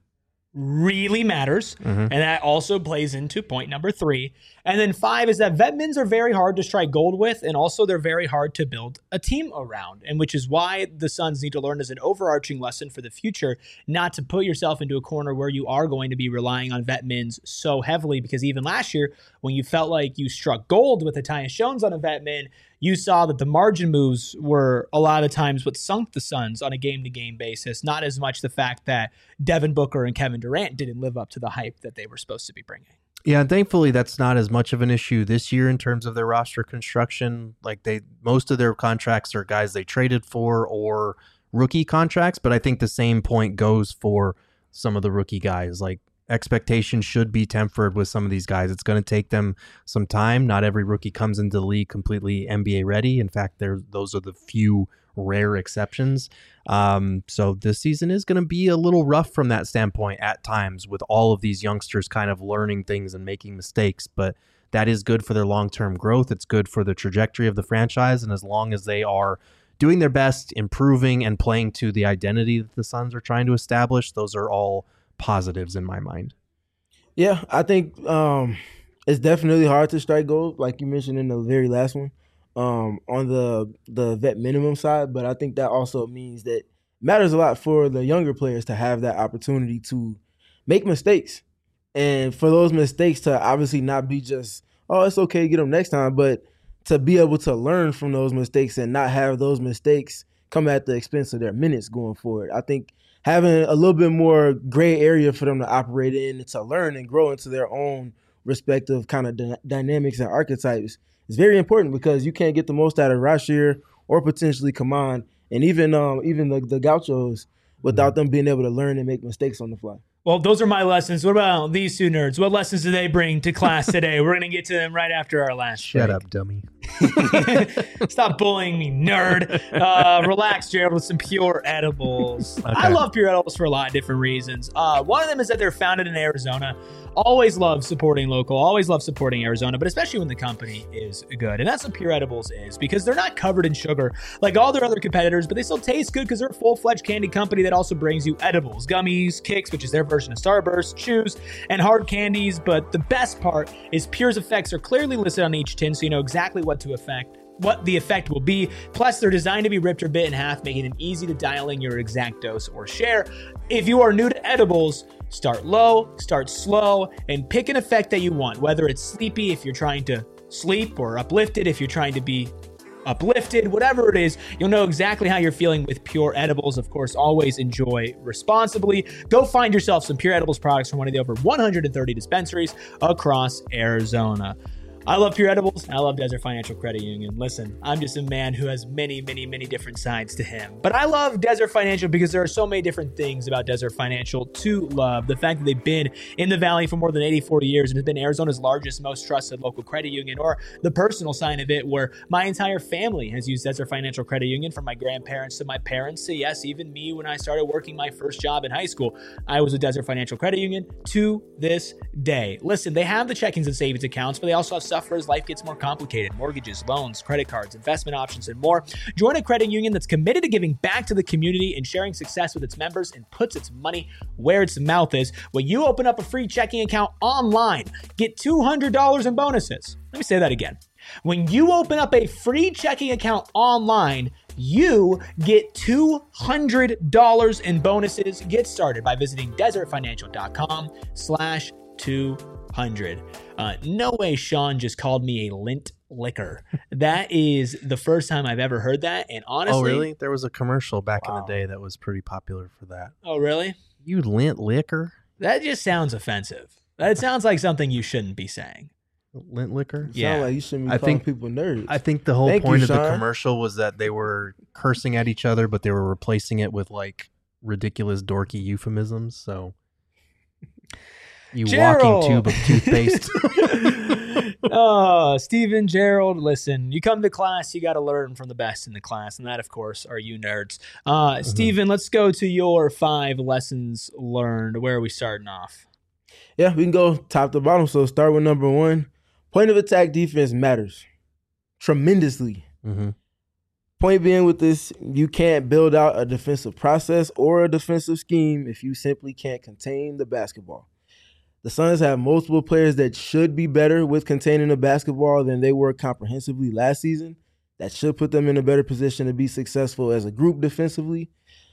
really matters, mm-hmm. and that also plays into point number three. And then five is that vet mins are very hard to strike gold with, and also they're very hard to build a team around, and which is why the Suns need to learn as an overarching lesson for the future not to put yourself into a corner where you are going to be relying on vet mins so heavily, because even last year when you felt like you struck gold with Tyus Jones on a vet min, you saw that the margin moves were a lot of times what sunk the Suns on a game-to-game basis, not as much the fact that Devin Booker and Kevin Durant didn't live up to the hype that they were supposed to be bringing. Yeah, and thankfully that's not as much of an issue this year in terms of their roster construction. Like, they, most of their contracts are guys they traded for or rookie contracts, but I think the same point goes for some of the rookie guys. Like, expectations should be tempered with some of these guys. It's going to take them some time. Not every rookie comes into the league completely N B A ready. In fact, there those are the few rare exceptions. Um, so this season is going to be a little rough from that standpoint at times, with all of these youngsters kind of learning things and making mistakes. But that is good for their long-term growth. It's good for the trajectory of the franchise. And as long as they are doing their best, improving, and playing to the identity that the Suns are trying to establish, those are all positives in my mind. Yeah, I think um, it's definitely hard to strike gold, like you mentioned in the very last one, um, on the the vet minimum side. But I think that also means that it matters a lot for the younger players to have that opportunity to make mistakes, and for those mistakes to obviously not be just, oh, it's okay, get them next time, but to be able to learn from those mistakes and not have those mistakes come at the expense of their minutes going forward. I think having a little bit more gray area for them to operate in and to learn and grow into their own respective kind of d- dynamics and archetypes is very important, because you can't get the most out of Rasheer or potentially Kaman and even um, even the, the Gauchos without them being able to learn and make mistakes on the fly. Well, those are my lessons. What about these two nerds? What lessons do they bring to class today? We're going to get to them right after our last Shut break. up, dummy. Stop bullying me, nerd. Uh, relax, Jared, with some Pure Edibles. Okay. I love Pure Edibles for a lot of different reasons. Uh, one of them is that they're founded in Arizona. Always love supporting local. Always love supporting Arizona, but especially when the company is good. And that's what Pure Edibles is, because they're not covered in sugar like all their other competitors, but they still taste good because they're a full-fledged candy company that also brings you edibles, gummies, kicks, which is their version of Starburst, chews, and hard candies. But the best part is Pure's effects are clearly listed on each tin, so you know exactly what to affect. what the effect will be. Plus, they're designed to be ripped or bit in half, making it easy to dial in your exact dose or share. If you are new to edibles, start low, start slow, and pick an effect that you want, whether it's sleepy if you're trying to sleep, or uplifted if you're trying to be uplifted, whatever it is, you'll know exactly how you're feeling with Pure Edibles. Of course, always enjoy responsibly. Go find yourself some Pure Edibles products from one of the over one hundred thirty dispensaries across Arizona. I love Pure Edibles. I love Desert Financial Credit Union. Listen, I'm just a man who has many, many, many different sides to him. But I love Desert Financial because there are so many different things about Desert Financial to love. The fact that they've been in the Valley for more than eighty-four years and has been Arizona's largest, most trusted local credit union, or the personal side of it where my entire family has used Desert Financial Credit Union, from my grandparents to my parents to, yes, even me when I started working my first job in high school. I was a Desert Financial Credit Union to this day. Listen, they have the checkings and savings accounts, but they also have stuff for as life gets more complicated: mortgages, loans, credit cards, investment options, and more. Join a credit union that's committed to giving back to the community and sharing success with its members, and puts its money where its mouth is. When you open up a free checking account online, get two hundred dollars in bonuses. Let me say that again. When you open up a free checking account online, you get two hundred dollars in bonuses. Get started by visiting desertfinancial.com slash 200. Uh, no way Sean just called me a lint liquor. That is the first time I've ever heard that. And honestly... Oh, really? There was a commercial back Wow. in the day that was pretty popular for that. Oh, really? You lint liquor? That just sounds offensive. That sounds like something you shouldn't be saying. Lint liquor? Yeah. Sound like you shouldn't be I calling think- people nerds. I think the whole Thank point you, of the Sean. commercial was that they were cursing at each other, but they were replacing it with like ridiculous dorky euphemisms. So You Gerald. walking tube of toothpaste. Oh, Steven, Gerald, listen, you come to class, you got to learn from the best in the class. And that, of course, are you nerds. Uh, mm-hmm. Steven, let's go to your five lessons learned. Where are we starting off? Yeah, we can go top to bottom. So start with number one. Point of attack defense matters tremendously. Mm-hmm. Point being with this, you can't build out a defensive process or a defensive scheme if you simply can't contain the basketball. The Suns have multiple players that should be better with containing the basketball than they were comprehensively last season. That should put them in a better position to be successful as a group defensively.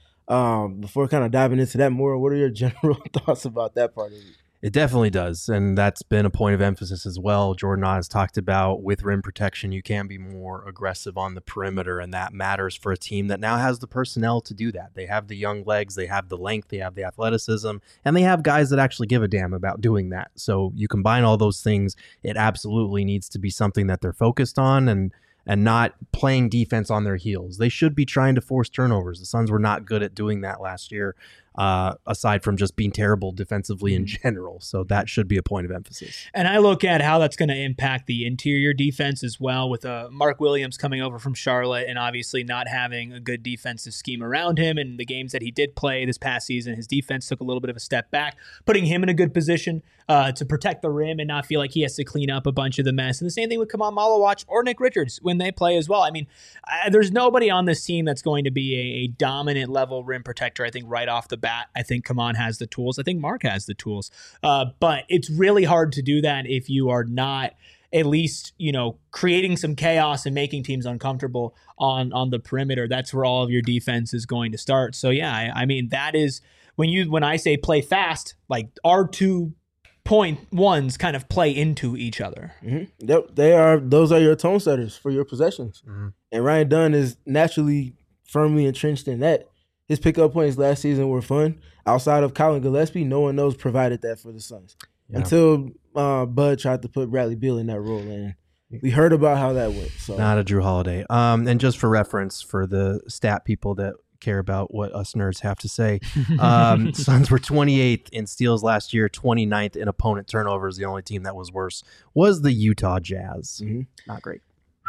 Um, before kind of diving into that more, what are your general thoughts about that part of it? It definitely does, and that's been a point of emphasis as well. Jordan has talked about with rim protection, you can be more aggressive on the perimeter, and that matters for a team that now has the personnel to do that. They have the young legs, they have the length, they have the athleticism, and they have guys that actually give a damn about doing that. So you combine all those things, it absolutely needs to be something that they're focused on and and not playing defense on their heels. They should be trying to force turnovers. The Suns were not good at doing that last year, uh, aside from just being terrible defensively in general. So that should be a point of emphasis. And I look at how that's going to impact the interior defense as well, with uh, Mark Williams coming over from Charlotte and obviously not having a good defensive scheme around him. And the games that he did play this past season, his defense took a little bit of a step back, putting him in a good position uh, to protect the rim and not feel like he has to clean up a bunch of the mess. And the same thing with Kaman Malawach or Nick Richards when they play as well. I mean, I, there's nobody on this team that's going to be a, a dominant level rim protector, I think, right off the bat. I think Kaman has the tools. I think Mark has the tools. Uh, but it's really hard to do that if you are not at least, you know, creating some chaos and making teams uncomfortable on, on the perimeter. That's where all of your defense is going to start. So, yeah, I, I mean, that is when you when I say play fast, like our two point ones kind of play into each other. Mm-hmm. Yep, they are. Those are your tone setters for your possessions. Mm-hmm. And Ryan Dunn is naturally firmly entrenched in that. His pickup points last season were fun. Outside of Colin Gillespie, no one else provided that for the Suns. Yeah. Until uh, Bud tried to put Bradley Beal in that role, and we heard about how that went. So not a Drew Holiday. Um, and just for reference, for the stat people that care about what us nerds have to say, um, Suns were twenty-eighth in steals last year, twenty-ninth in opponent turnovers. The only team that was worse was the Utah Jazz. Mm-hmm. Not great.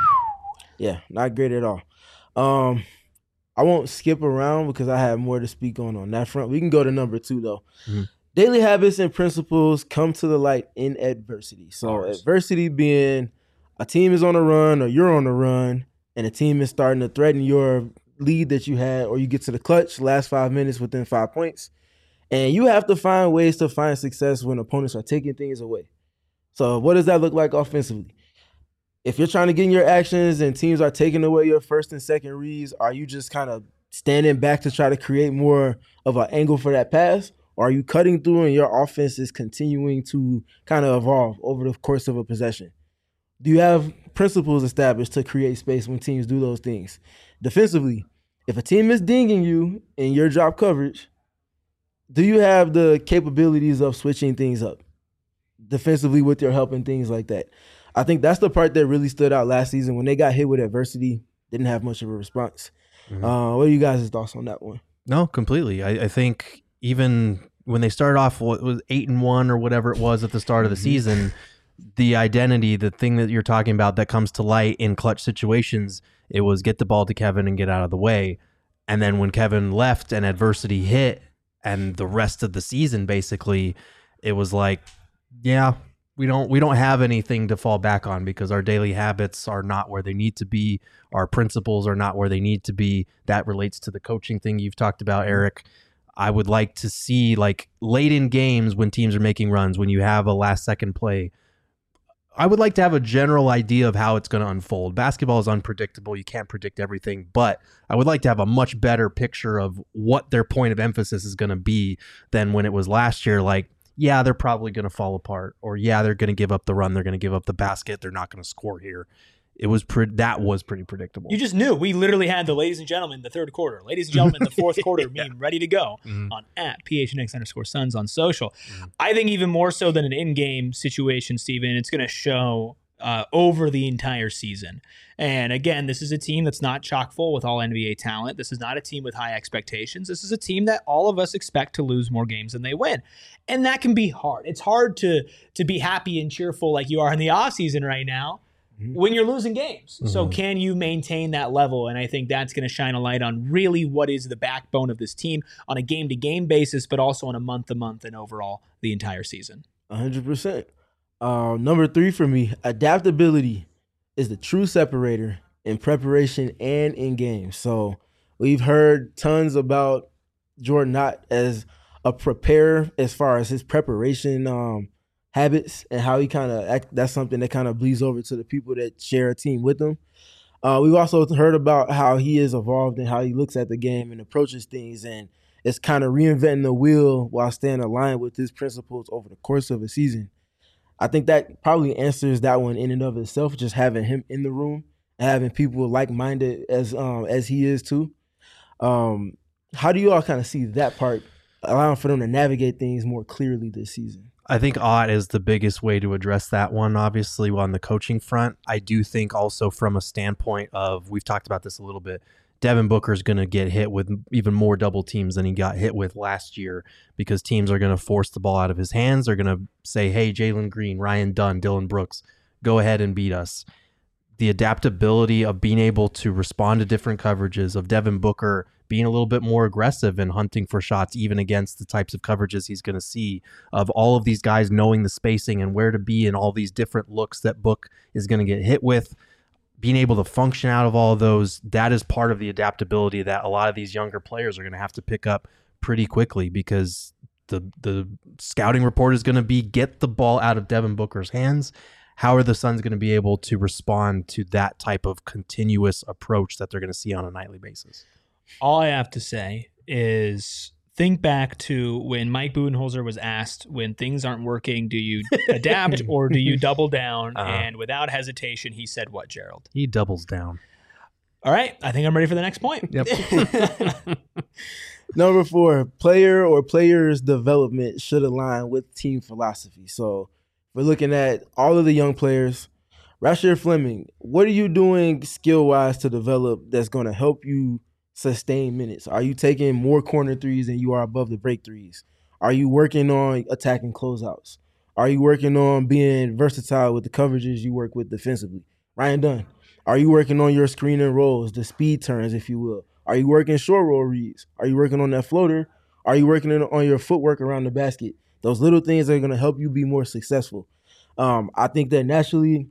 Yeah, not great at all. Um, I won't skip around because I have more to speak on on that front. We can go to number two, though. Mm-hmm. Daily habits and principles come to the light in adversity. So adversity being a team is on a run or you're on a run and a team is starting to threaten your lead that you had, or you get to the clutch, last five minutes within five points. And you have to find ways to find success when opponents are taking things away. So what does that look like offensively? If you're trying to get in your actions and teams are taking away your first and second reads, are you just kind of standing back to try to create more of an angle for that pass? Or are you cutting through and your offense is continuing to kind of evolve over the course of a possession? Do you have principles established to create space when teams do those things? Defensively, if a team is dinging you in your drop coverage, do you have the capabilities of switching things up defensively with your help and things like that? I think that's the part that really stood out last season when they got hit with adversity, didn't have much of a response. Mm-hmm. Uh, what are you guys' thoughts on that one? No, completely. I, I think even when they started off, what was eight and one or whatever it was at the start of the mm-hmm. season, the identity, the thing that you're talking about that comes to light in clutch situations, it was get the ball to Kevin and get out of the way. And then when Kevin left and adversity hit and the rest of the season, basically, it was like, yeah, we don't we don't have anything to fall back on because our daily habits are not where they need to be. Our principles are not where they need to be. That relates to the coaching thing you've talked about, Eric. I would like to see, like, late in games when teams are making runs, when you have a last second play, I would like to have a general idea of how it's going to unfold. Basketball is unpredictable. You can't predict everything, but I would like to have a much better picture of what their point of emphasis is going to be than when it was last year. Like, yeah, they're probably going to fall apart, or yeah, they're going to give up the run. They're going to give up the basket. They're not going to score here. It was pre- that was pretty predictable. You just knew. We literally had the ladies and gentlemen, the third quarter, ladies and gentlemen, the fourth quarter yeah. meme ready to go mm-hmm. on at P H N X underscore Suns on social. Mm-hmm. I think even more so than an in-game situation, Steven, it's going to show uh, over the entire season. And again, this is a team that's not chock full with all N B A talent. This is not a team with high expectations. This is a team that all of us expect to lose more games than they win. And that can be hard. It's hard to to be happy and cheerful like you are in the offseason right now when you're losing games. Mm-hmm. So can you maintain that level? And I think that's going to shine a light on really what is the backbone of this team on a game-to-game basis, but also on a month-to-month and overall the entire season. one hundred percent. Uh, number three for me, adaptability is the true separator in preparation and in games. So we've heard tons about Jordan Knott as a preparer as far as his preparation um, habits and how he kind of – that's something that kind of bleeds over to the people that share a team with him. Uh, we've also heard about how he is evolved and how he looks at the game and approaches things, and it's kind of reinventing the wheel while staying aligned with his principles over the course of a season. I think that probably answers that one in and of itself, just having him in the room and having people like-minded as um, as he is too. Um, how do you all kind of see that part, allowing for them to navigate things more clearly this season? I think Ott is the biggest way to address that one, obviously, on the coaching front. I do think also from a standpoint of, we've talked about this a little bit, Devin Booker is going to get hit with even more double teams than he got hit with last year because teams are going to force the ball out of his hands. They're going to say, hey, Jalen Green, Ryan Dunn, Dylan Brooks, go ahead and beat us. The adaptability of being able to respond to different coverages, of Devin Booker being a little bit more aggressive and hunting for shots even against the types of coverages he's going to see, of all of these guys knowing the spacing and where to be in all these different looks that Book is going to get hit with. Being able to function out of all of those, that is part of the adaptability that a lot of these younger players are going to have to pick up pretty quickly, because the the scouting report is going to be, get the ball out of Devin Booker's hands. How are the Suns going to be able to respond to that type of continuous approach that they're going to see on a nightly basis? All I have to say is think back to when Mike Budenholzer was asked, when things aren't working, do you adapt or do you double down? Uh-huh. And without hesitation, he said what, Gerald? He doubles down. All right. I think I'm ready for the next point. Yep. Number four, player or players' development should align with team philosophy. So we're looking at all of the young players. Rasheed Fleming, what are you doing skill-wise to develop that's going to help you sustain minutes? Are you taking more corner threes than you are above the break threes? Are you working on attacking closeouts? Are you working on being versatile with the coverages you work with defensively? Ryan Dunn, are you working on your screen and rolls, the speed turns, if you will? Are you working short roll reads? Are you working on that floater? Are you working on your footwork around the basket? Those little things are going to help you be more successful. Um, I think that naturally,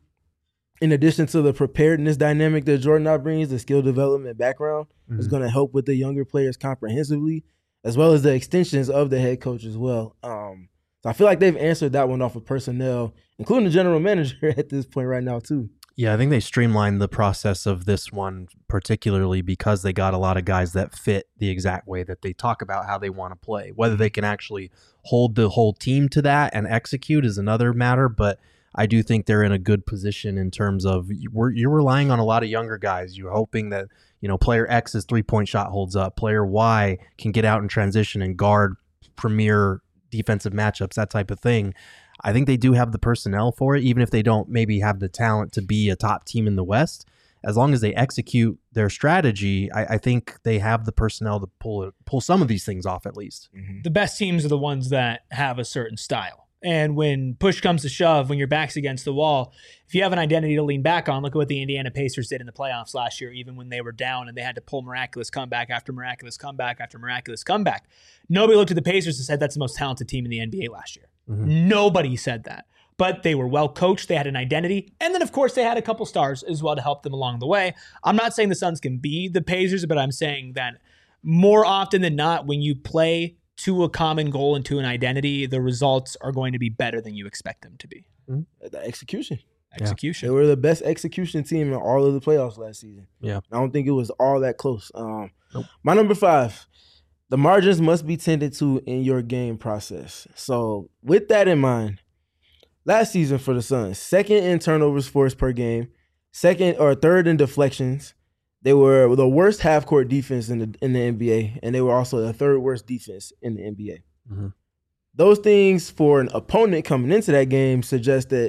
in addition to the preparedness dynamic that Jordan Knott brings, the skill development background mm-hmm. is going to help with the younger players comprehensively, as well as the extensions of the head coach as well. Um, so I feel like they've answered that one off of personnel, including the general manager at this point right now too. Yeah, I think they streamlined the process of this one, particularly because they got a lot of guys that fit the exact way that they talk about how they want to play. Whether they can actually hold the whole team to that and execute is another matter, but I do think they're in a good position in terms of you're, you're relying on a lot of younger guys. You're hoping that, you know, player X's three-point shot holds up. Player Y can get out in transition and guard premier defensive matchups, that type of thing. I think they do have the personnel for it, even if they don't maybe have the talent to be a top team in the West. As long as they execute their strategy, I, I think they have the personnel to pull it, pull some of these things off at least. Mm-hmm. The best teams are the ones that have a certain style. And when push comes to shove, when your back's against the wall, if you have an identity to lean back on, look at what the Indiana Pacers did in the playoffs last year, even when they were down and they had to pull miraculous comeback after miraculous comeback after miraculous comeback. Nobody looked at the Pacers and said that's the most talented team in the N B A last year. Mm-hmm. Nobody said that. But they were well coached. They had an identity. And then, of course, they had a couple stars as well to help them along the way. I'm not saying the Suns can be the Pacers, but I'm saying that more often than not, when you play to a common goal and to an identity, the results are going to be better than you expect them to be. Mm-hmm. The execution. Execution. Yeah. They were the best execution team in all of the playoffs last season. Yeah. I don't think it was all that close. Um, nope. My number five, the margins must be tended to in your game process. So with that in mind, last season for the Suns, second in turnovers forced per game, second or third in deflections. They were the worst half-court defense in the in the N B A, and they were also the third worst defense in the N B A. Mm-hmm. Those things for an opponent coming into that game suggest that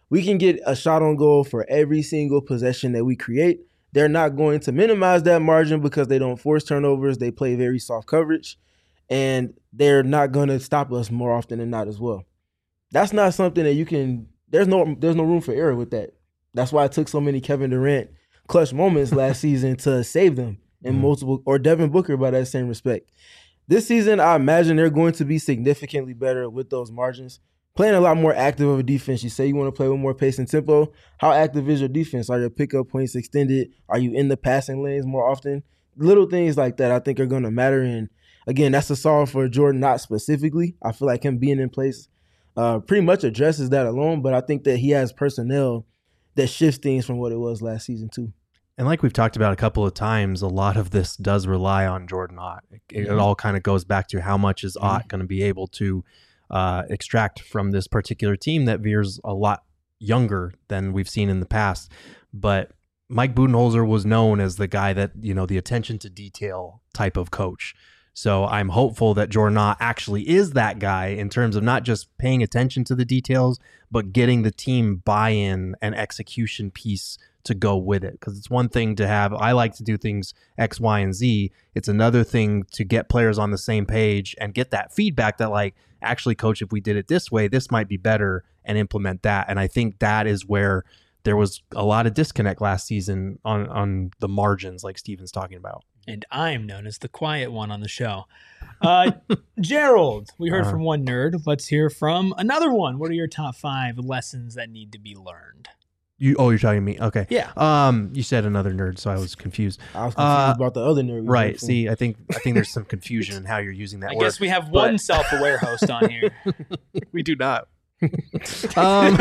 we can get a shot on goal for every single possession that we create. They're not going to minimize that margin because they don't force turnovers. They play very soft coverage, and they're not going to stop us more often than not as well. That's not something that you can – there's no there's no room for error with that. That's why it took so many Kevin Durant clutch moments last season to save them in mm. multiple – or Devin Booker by that same respect. This season, I imagine they're going to be significantly better with those margins. Playing a lot more active of a defense. You say you want to play with more pace and tempo. How active is your defense? Are your pickup points extended? Are you in the passing lanes more often? Little things like that I think are going to matter. And, again, that's a solve for Jordan Knott specifically. I feel like him being in place uh, pretty much addresses that alone. But I think that he has personnel that shifts things from what it was last season too. And like we've talked about a couple of times, a lot of this does rely on Jordan Ott. It, mm-hmm. it all kind of goes back to how much is Ott mm-hmm. going to be able to Uh, extract from this particular team that veers a lot younger than we've seen in the past. But Mike Budenholzer was known as the guy that, you know, the attention to detail type of coach. So I'm hopeful that Jordan Ott actually is that guy in terms of not just paying attention to the details, but getting the team buy-in and execution piece to go with it. Because it's one thing to have, I like to do things X, Y, and Z. It's another thing to get players on the same page and get that feedback that, like, actually, coach, if we did it this way, this might be better, and implement that. And I think that is where there was a lot of disconnect last season on, on the margins, like Steven's talking about. And I'm known as the quiet one on the show. Uh, Gerald, we heard uh, from one nerd. Let's hear from another one. What are your top five lessons that need to be learned? You oh, you're talking to me. Okay. Yeah. Um, you said another nerd, so I was confused. I was confused uh, about the other nerd. Right. See, I think I think there's some confusion in how you're using that I word. guess we have but... one self-aware host on here. We do not. um,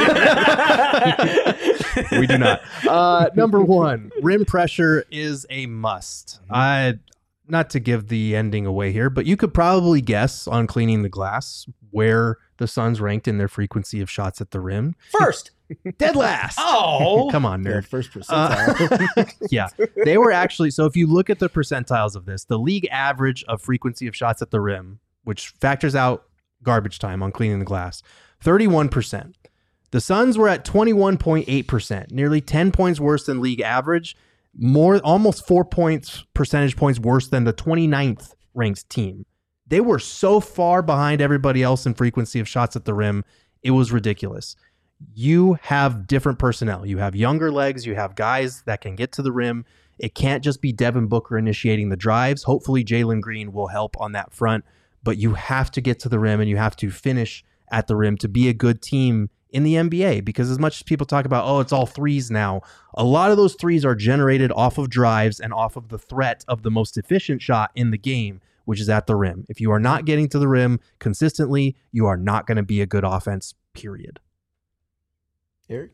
we do not. Uh, number one, rim pressure is a must. I not to give the ending away here, but you could probably guess on Cleaning the Glass where the Suns ranked in their frequency of shots at the rim. First. Dead last. Oh. Come on, nerd. Yeah, first percentile. Uh, yeah. They were actually, so if you look at the percentiles of this, the league average of frequency of shots at the rim, which factors out garbage time on Cleaning the Glass, thirty-one percent. The Suns were at twenty-one point eight percent, nearly ten points worse than league average, more almost four points percentage points worse than the twenty-ninth ranked team. They were so far behind everybody else in frequency of shots at the rim, it was ridiculous. You have different personnel. You have younger legs. You have guys that can get to the rim. It can't just be Devin Booker initiating the drives. Hopefully Jalen Green will help on that front, but you have to get to the rim and you have to finish at the rim to be a good team in the N B A, because as much as people talk about, oh, it's all threes now, a lot of those threes are generated off of drives and off of the threat of the most efficient shot in the game, which is at the rim. If you are not getting to the rim consistently, you are not going to be a good offense, period. Eric?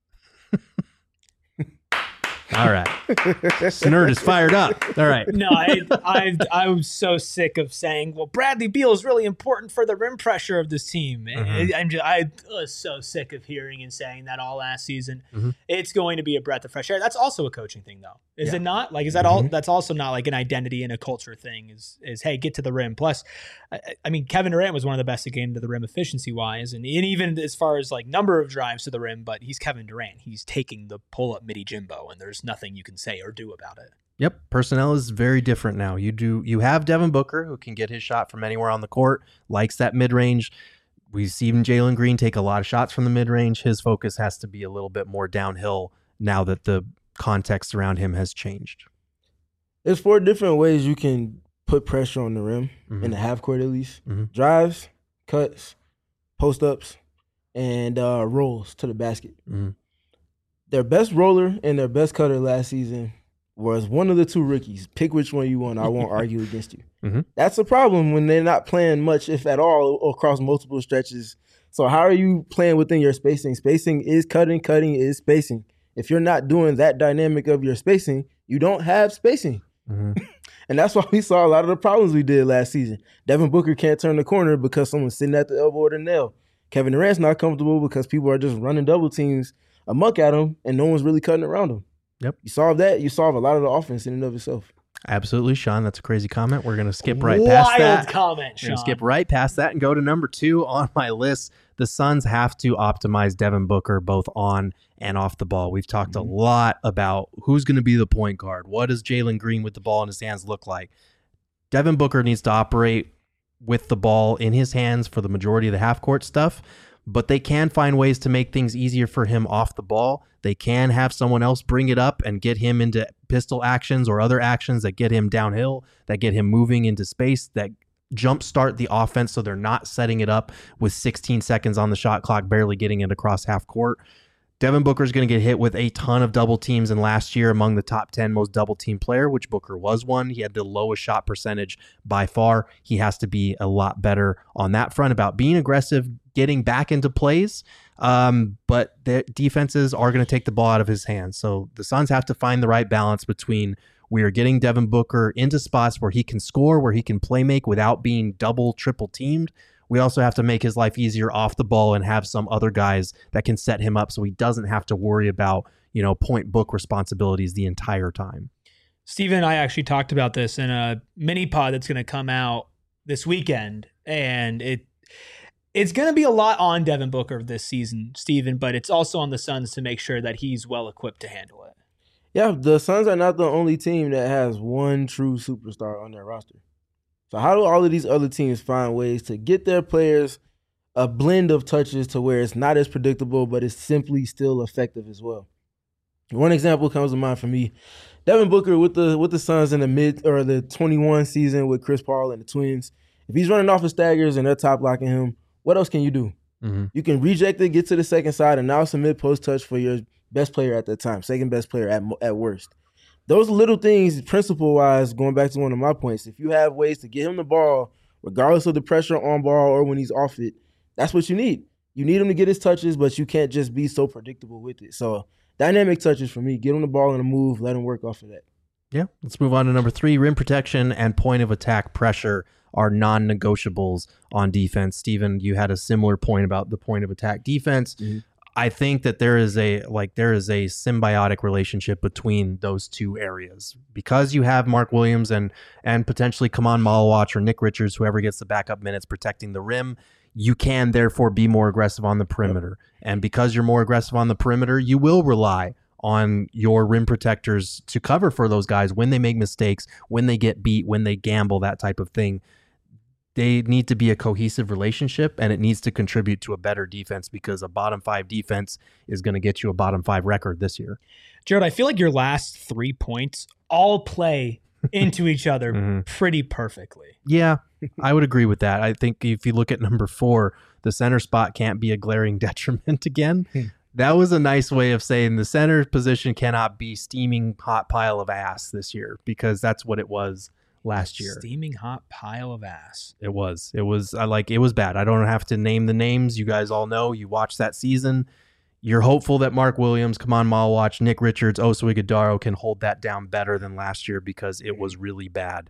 All right. This nerd is fired up. All right. No, I, I I was so sick of saying, well, Bradley Beal is really important for the rim pressure of this team. Mm-hmm. I'm just, I was so sick of hearing and saying that all last season. Mm-hmm. It's going to be a breath of fresh air. That's also a coaching thing, though. Is yeah. it not? Like, is that mm-hmm. all? That's also not like an identity and a culture thing is, is hey, get to the rim. Plus, I, I mean, Kevin Durant was one of the best at getting to the rim efficiency-wise, and, and even as far as like number of drives to the rim, but he's Kevin Durant. He's taking the pull-up midi Jimbo, and there's nothing you can say or do about it. Yep. Personnel is very different now. You do, you have Devin Booker, who can get his shot from anywhere on the court, likes that mid-range. We've seen Jalen Green take a lot of shots from the mid-range. His focus has to be a little bit more downhill now that the context around him has changed. There's four different ways you can put pressure on the rim, mm-hmm. in the half court at least. Mm-hmm. Drives, cuts, post-ups, and uh, rolls to the basket. Mm-hmm. Their best roller and their best cutter last season was one of the two rookies. Pick which one you want. I won't argue against you. Mm-hmm. That's a problem when they're not playing much, if at all, across multiple stretches. So how are you playing within your spacing? Spacing is cutting. Cutting is spacing. If you're not doing that dynamic of your spacing, you don't have spacing. Mm-hmm. And that's why we saw a lot of the problems we did last season. Devin Booker can't turn the corner because someone's sitting at the elbow or the nail. Kevin Durant's not comfortable because people are just running double teams amok at him, and no one's really cutting around him. Yep. You solve that, you solve a lot of the offense in and of itself. Absolutely, Sean. That's a crazy comment. We're going to skip right past that. Wild comment, Sean. We're going to skip right past that and go to number two on my list. the Suns have to optimize Devin Booker both on and off the ball. We've talked mm-hmm. a lot about who's going to be the point guard. What does Jalen Green with the ball in his hands look like? Devin Booker needs to operate with the ball in his hands for the majority of the half-court stuff, but they can find ways to make things easier for him off the ball. They can have someone else bring it up and get him into pistol actions or other actions that get him downhill, that get him moving into space, that jumpstart the offense so they're not setting it up with sixteen seconds on the shot clock, barely getting it across half court. Devin Booker is going to get hit with a ton of double teams, and last year among the top ten most double team player, which Booker was one. He had the lowest shot percentage by far. He has to be a lot better on that front about being aggressive, getting back into plays. Um, but the defenses are going to take the ball out of his hands. So the Suns have to find the right balance between we are getting Devin Booker into spots where he can score, where he can play make without being double, triple teamed. We also have to make his life easier off the ball and have some other guys that can set him up so he doesn't have to worry about, you know, point book responsibilities the entire time. Steven and I actually talked about this in a mini pod that's going to come out this weekend, and it it's going to be a lot on Devin Booker this season, Steven, but it's also on the Suns to make sure that he's well equipped to handle it. Yeah, the Suns are not the only team that has one true superstar on their roster. So how do all of these other teams find ways to get their players a blend of touches to where it's not as predictable, but it's simply still effective as well? One example comes to mind for me. Devin Booker with the with the Suns in the mid or the twenty-one season with Chris Paul and the Twins. If he's running off of staggers and they're top blocking him, what else can you do? Mm-hmm. You can reject it, get to the second side, and now submit post touch for your best player at that time, second best player at at worst. Those little things, principle-wise, going back to one of my points, if you have ways to get him the ball, regardless of the pressure on ball or when he's off it, that's what you need. You need him to get his touches, but you can't just be so predictable with it. So dynamic touches for me. Get him the ball in a move. Let him work off of that. Yeah. Let's move on to number three. Rim protection and point of attack pressure are non-negotiables on defense. Steven, you had a similar point about the point of attack defense. Mm-hmm. I think that there is a like there is a symbiotic relationship between those two areas because you have Mark Williams and and potentially Kaman Malawach or Nick Richards, whoever gets the backup minutes protecting the rim. You can therefore be more aggressive on the perimeter, yep. And because you're more aggressive on the perimeter, you will rely on your rim protectors to cover for those guys when they make mistakes, when they get beat, when they gamble, that type of thing. They need to be a cohesive relationship, and it needs to contribute to a better defense because a bottom five defense is going to get you a bottom five record this year. Jared, I feel like your last three points all play into each other mm-hmm. pretty perfectly. Yeah, I would agree with that. I think if you look at number four, the center spot can't be a glaring detriment again. That was a nice way of saying the center position cannot be steaming hot pile of ass this year because that's what it was last year. Steaming hot pile of ass. It was. It was I like it was bad. I don't have to name the names. You guys all know. You watched that season. You're hopeful that Mark Williams, Kaman Malawach, Nick Richards, Oso Ighodaro can hold that down better than last year because it was really bad.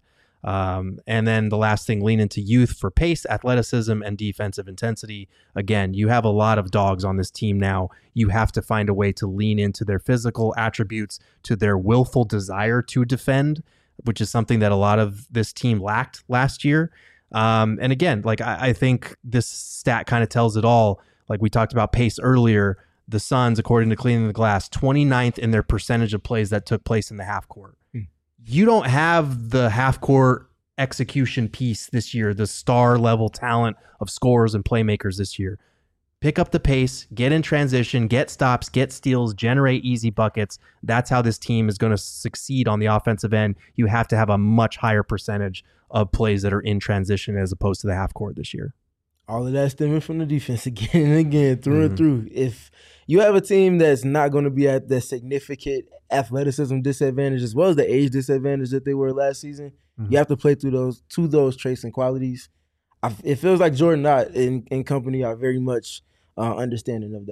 Um, and then the last thing, lean into youth for pace, athleticism, and defensive intensity. Again, you have a lot of dogs on this team now. You have to find a way to lean into their physical attributes, to their willful desire to defend, which is something that a lot of this team lacked last year. Um, and again, like I, I think this stat kind of tells it all. Like we talked about pace earlier, the Suns, according to Cleaning the Glass, twenty-ninth in their percentage of plays that took place in the half court. Hmm. You don't have the half court execution piece this year, the star level talent of scorers and playmakers this year. Pick up the pace, get in transition, get stops, get steals, generate easy buckets. That's how this team is going to succeed on the offensive end. You have to have a much higher percentage of plays that are in transition as opposed to the half court this year. All of that stemming from the defense again and again, through mm-hmm. and through. If you have a team that's not going to be at the significant athleticism disadvantage as well as the age disadvantage that they were last season, mm-hmm. you have to play through those to those traits and qualities. I, it feels like Jordan Knott and, and company are very much uh, understanding of that.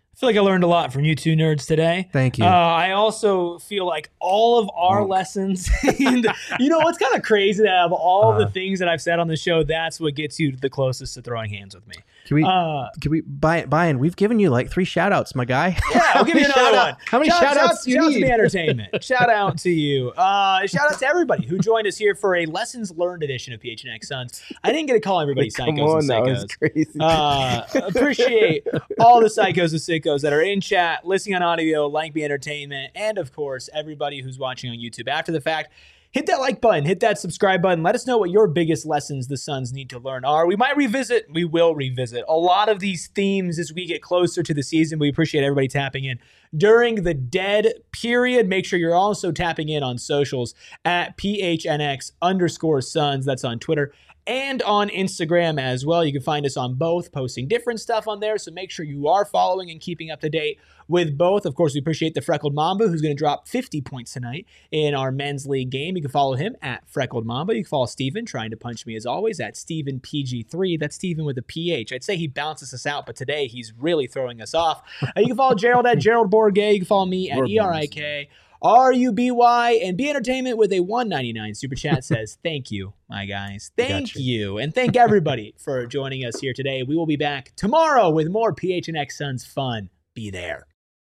I feel like I learned a lot from you two nerds today. Thank you. Uh, I also feel like all of our Bonk. lessons, and, you know, it's kind of crazy that of all Uh, the things that I've said on the show, that's what gets you the closest to throwing hands with me. Can we? Uh, can we? Brian, we've given you like three shout outs, my guy. Yeah, I'll give you How many another shout-out- one. How many shout, shout outs shout, do you shout out to need? the entertainment. Shout out to you. Uh, shout out to everybody who joined us here for a lessons learned edition of P H N X Suns. I didn't get to call everybody Come psychos on and now, psychos. it's crazy. Uh, appreciate all the psychos and sickos that are in chat, listening on audio, like the entertainment, and of course, everybody who's watching on YouTube after the fact. Hit that like button, hit that subscribe button. Let us know what your biggest lessons the Suns need to learn are. We might revisit, we will revisit a lot of these themes as we get closer to the season. We appreciate everybody tapping in during the dead period. Make sure you're also tapping in on socials at P H N X underscore Suns. That's on Twitter and on Instagram as well. You can find us on both, posting different stuff on there. So make sure you are following and keeping up to date with both. Of course, we appreciate the Freckled Mamba, who's going to drop fifty points tonight in our men's league game. You can follow him at Freckled Mamba. You can follow Steven, trying to punch me as always, at Steven P G three. That's Steven with a P H. I'd say he bounces us out, but today he's really throwing us off. Uh, you can follow Gerald at Gerald Borgay. You can follow me at Lord E R I K R U B Y, and B Entertainment with a one ninety-nine super chat says, thank you, my guys. Thank Gotcha. you. And thank everybody for joining us here today. We will be back tomorrow with more P H N X Suns fun. Be there.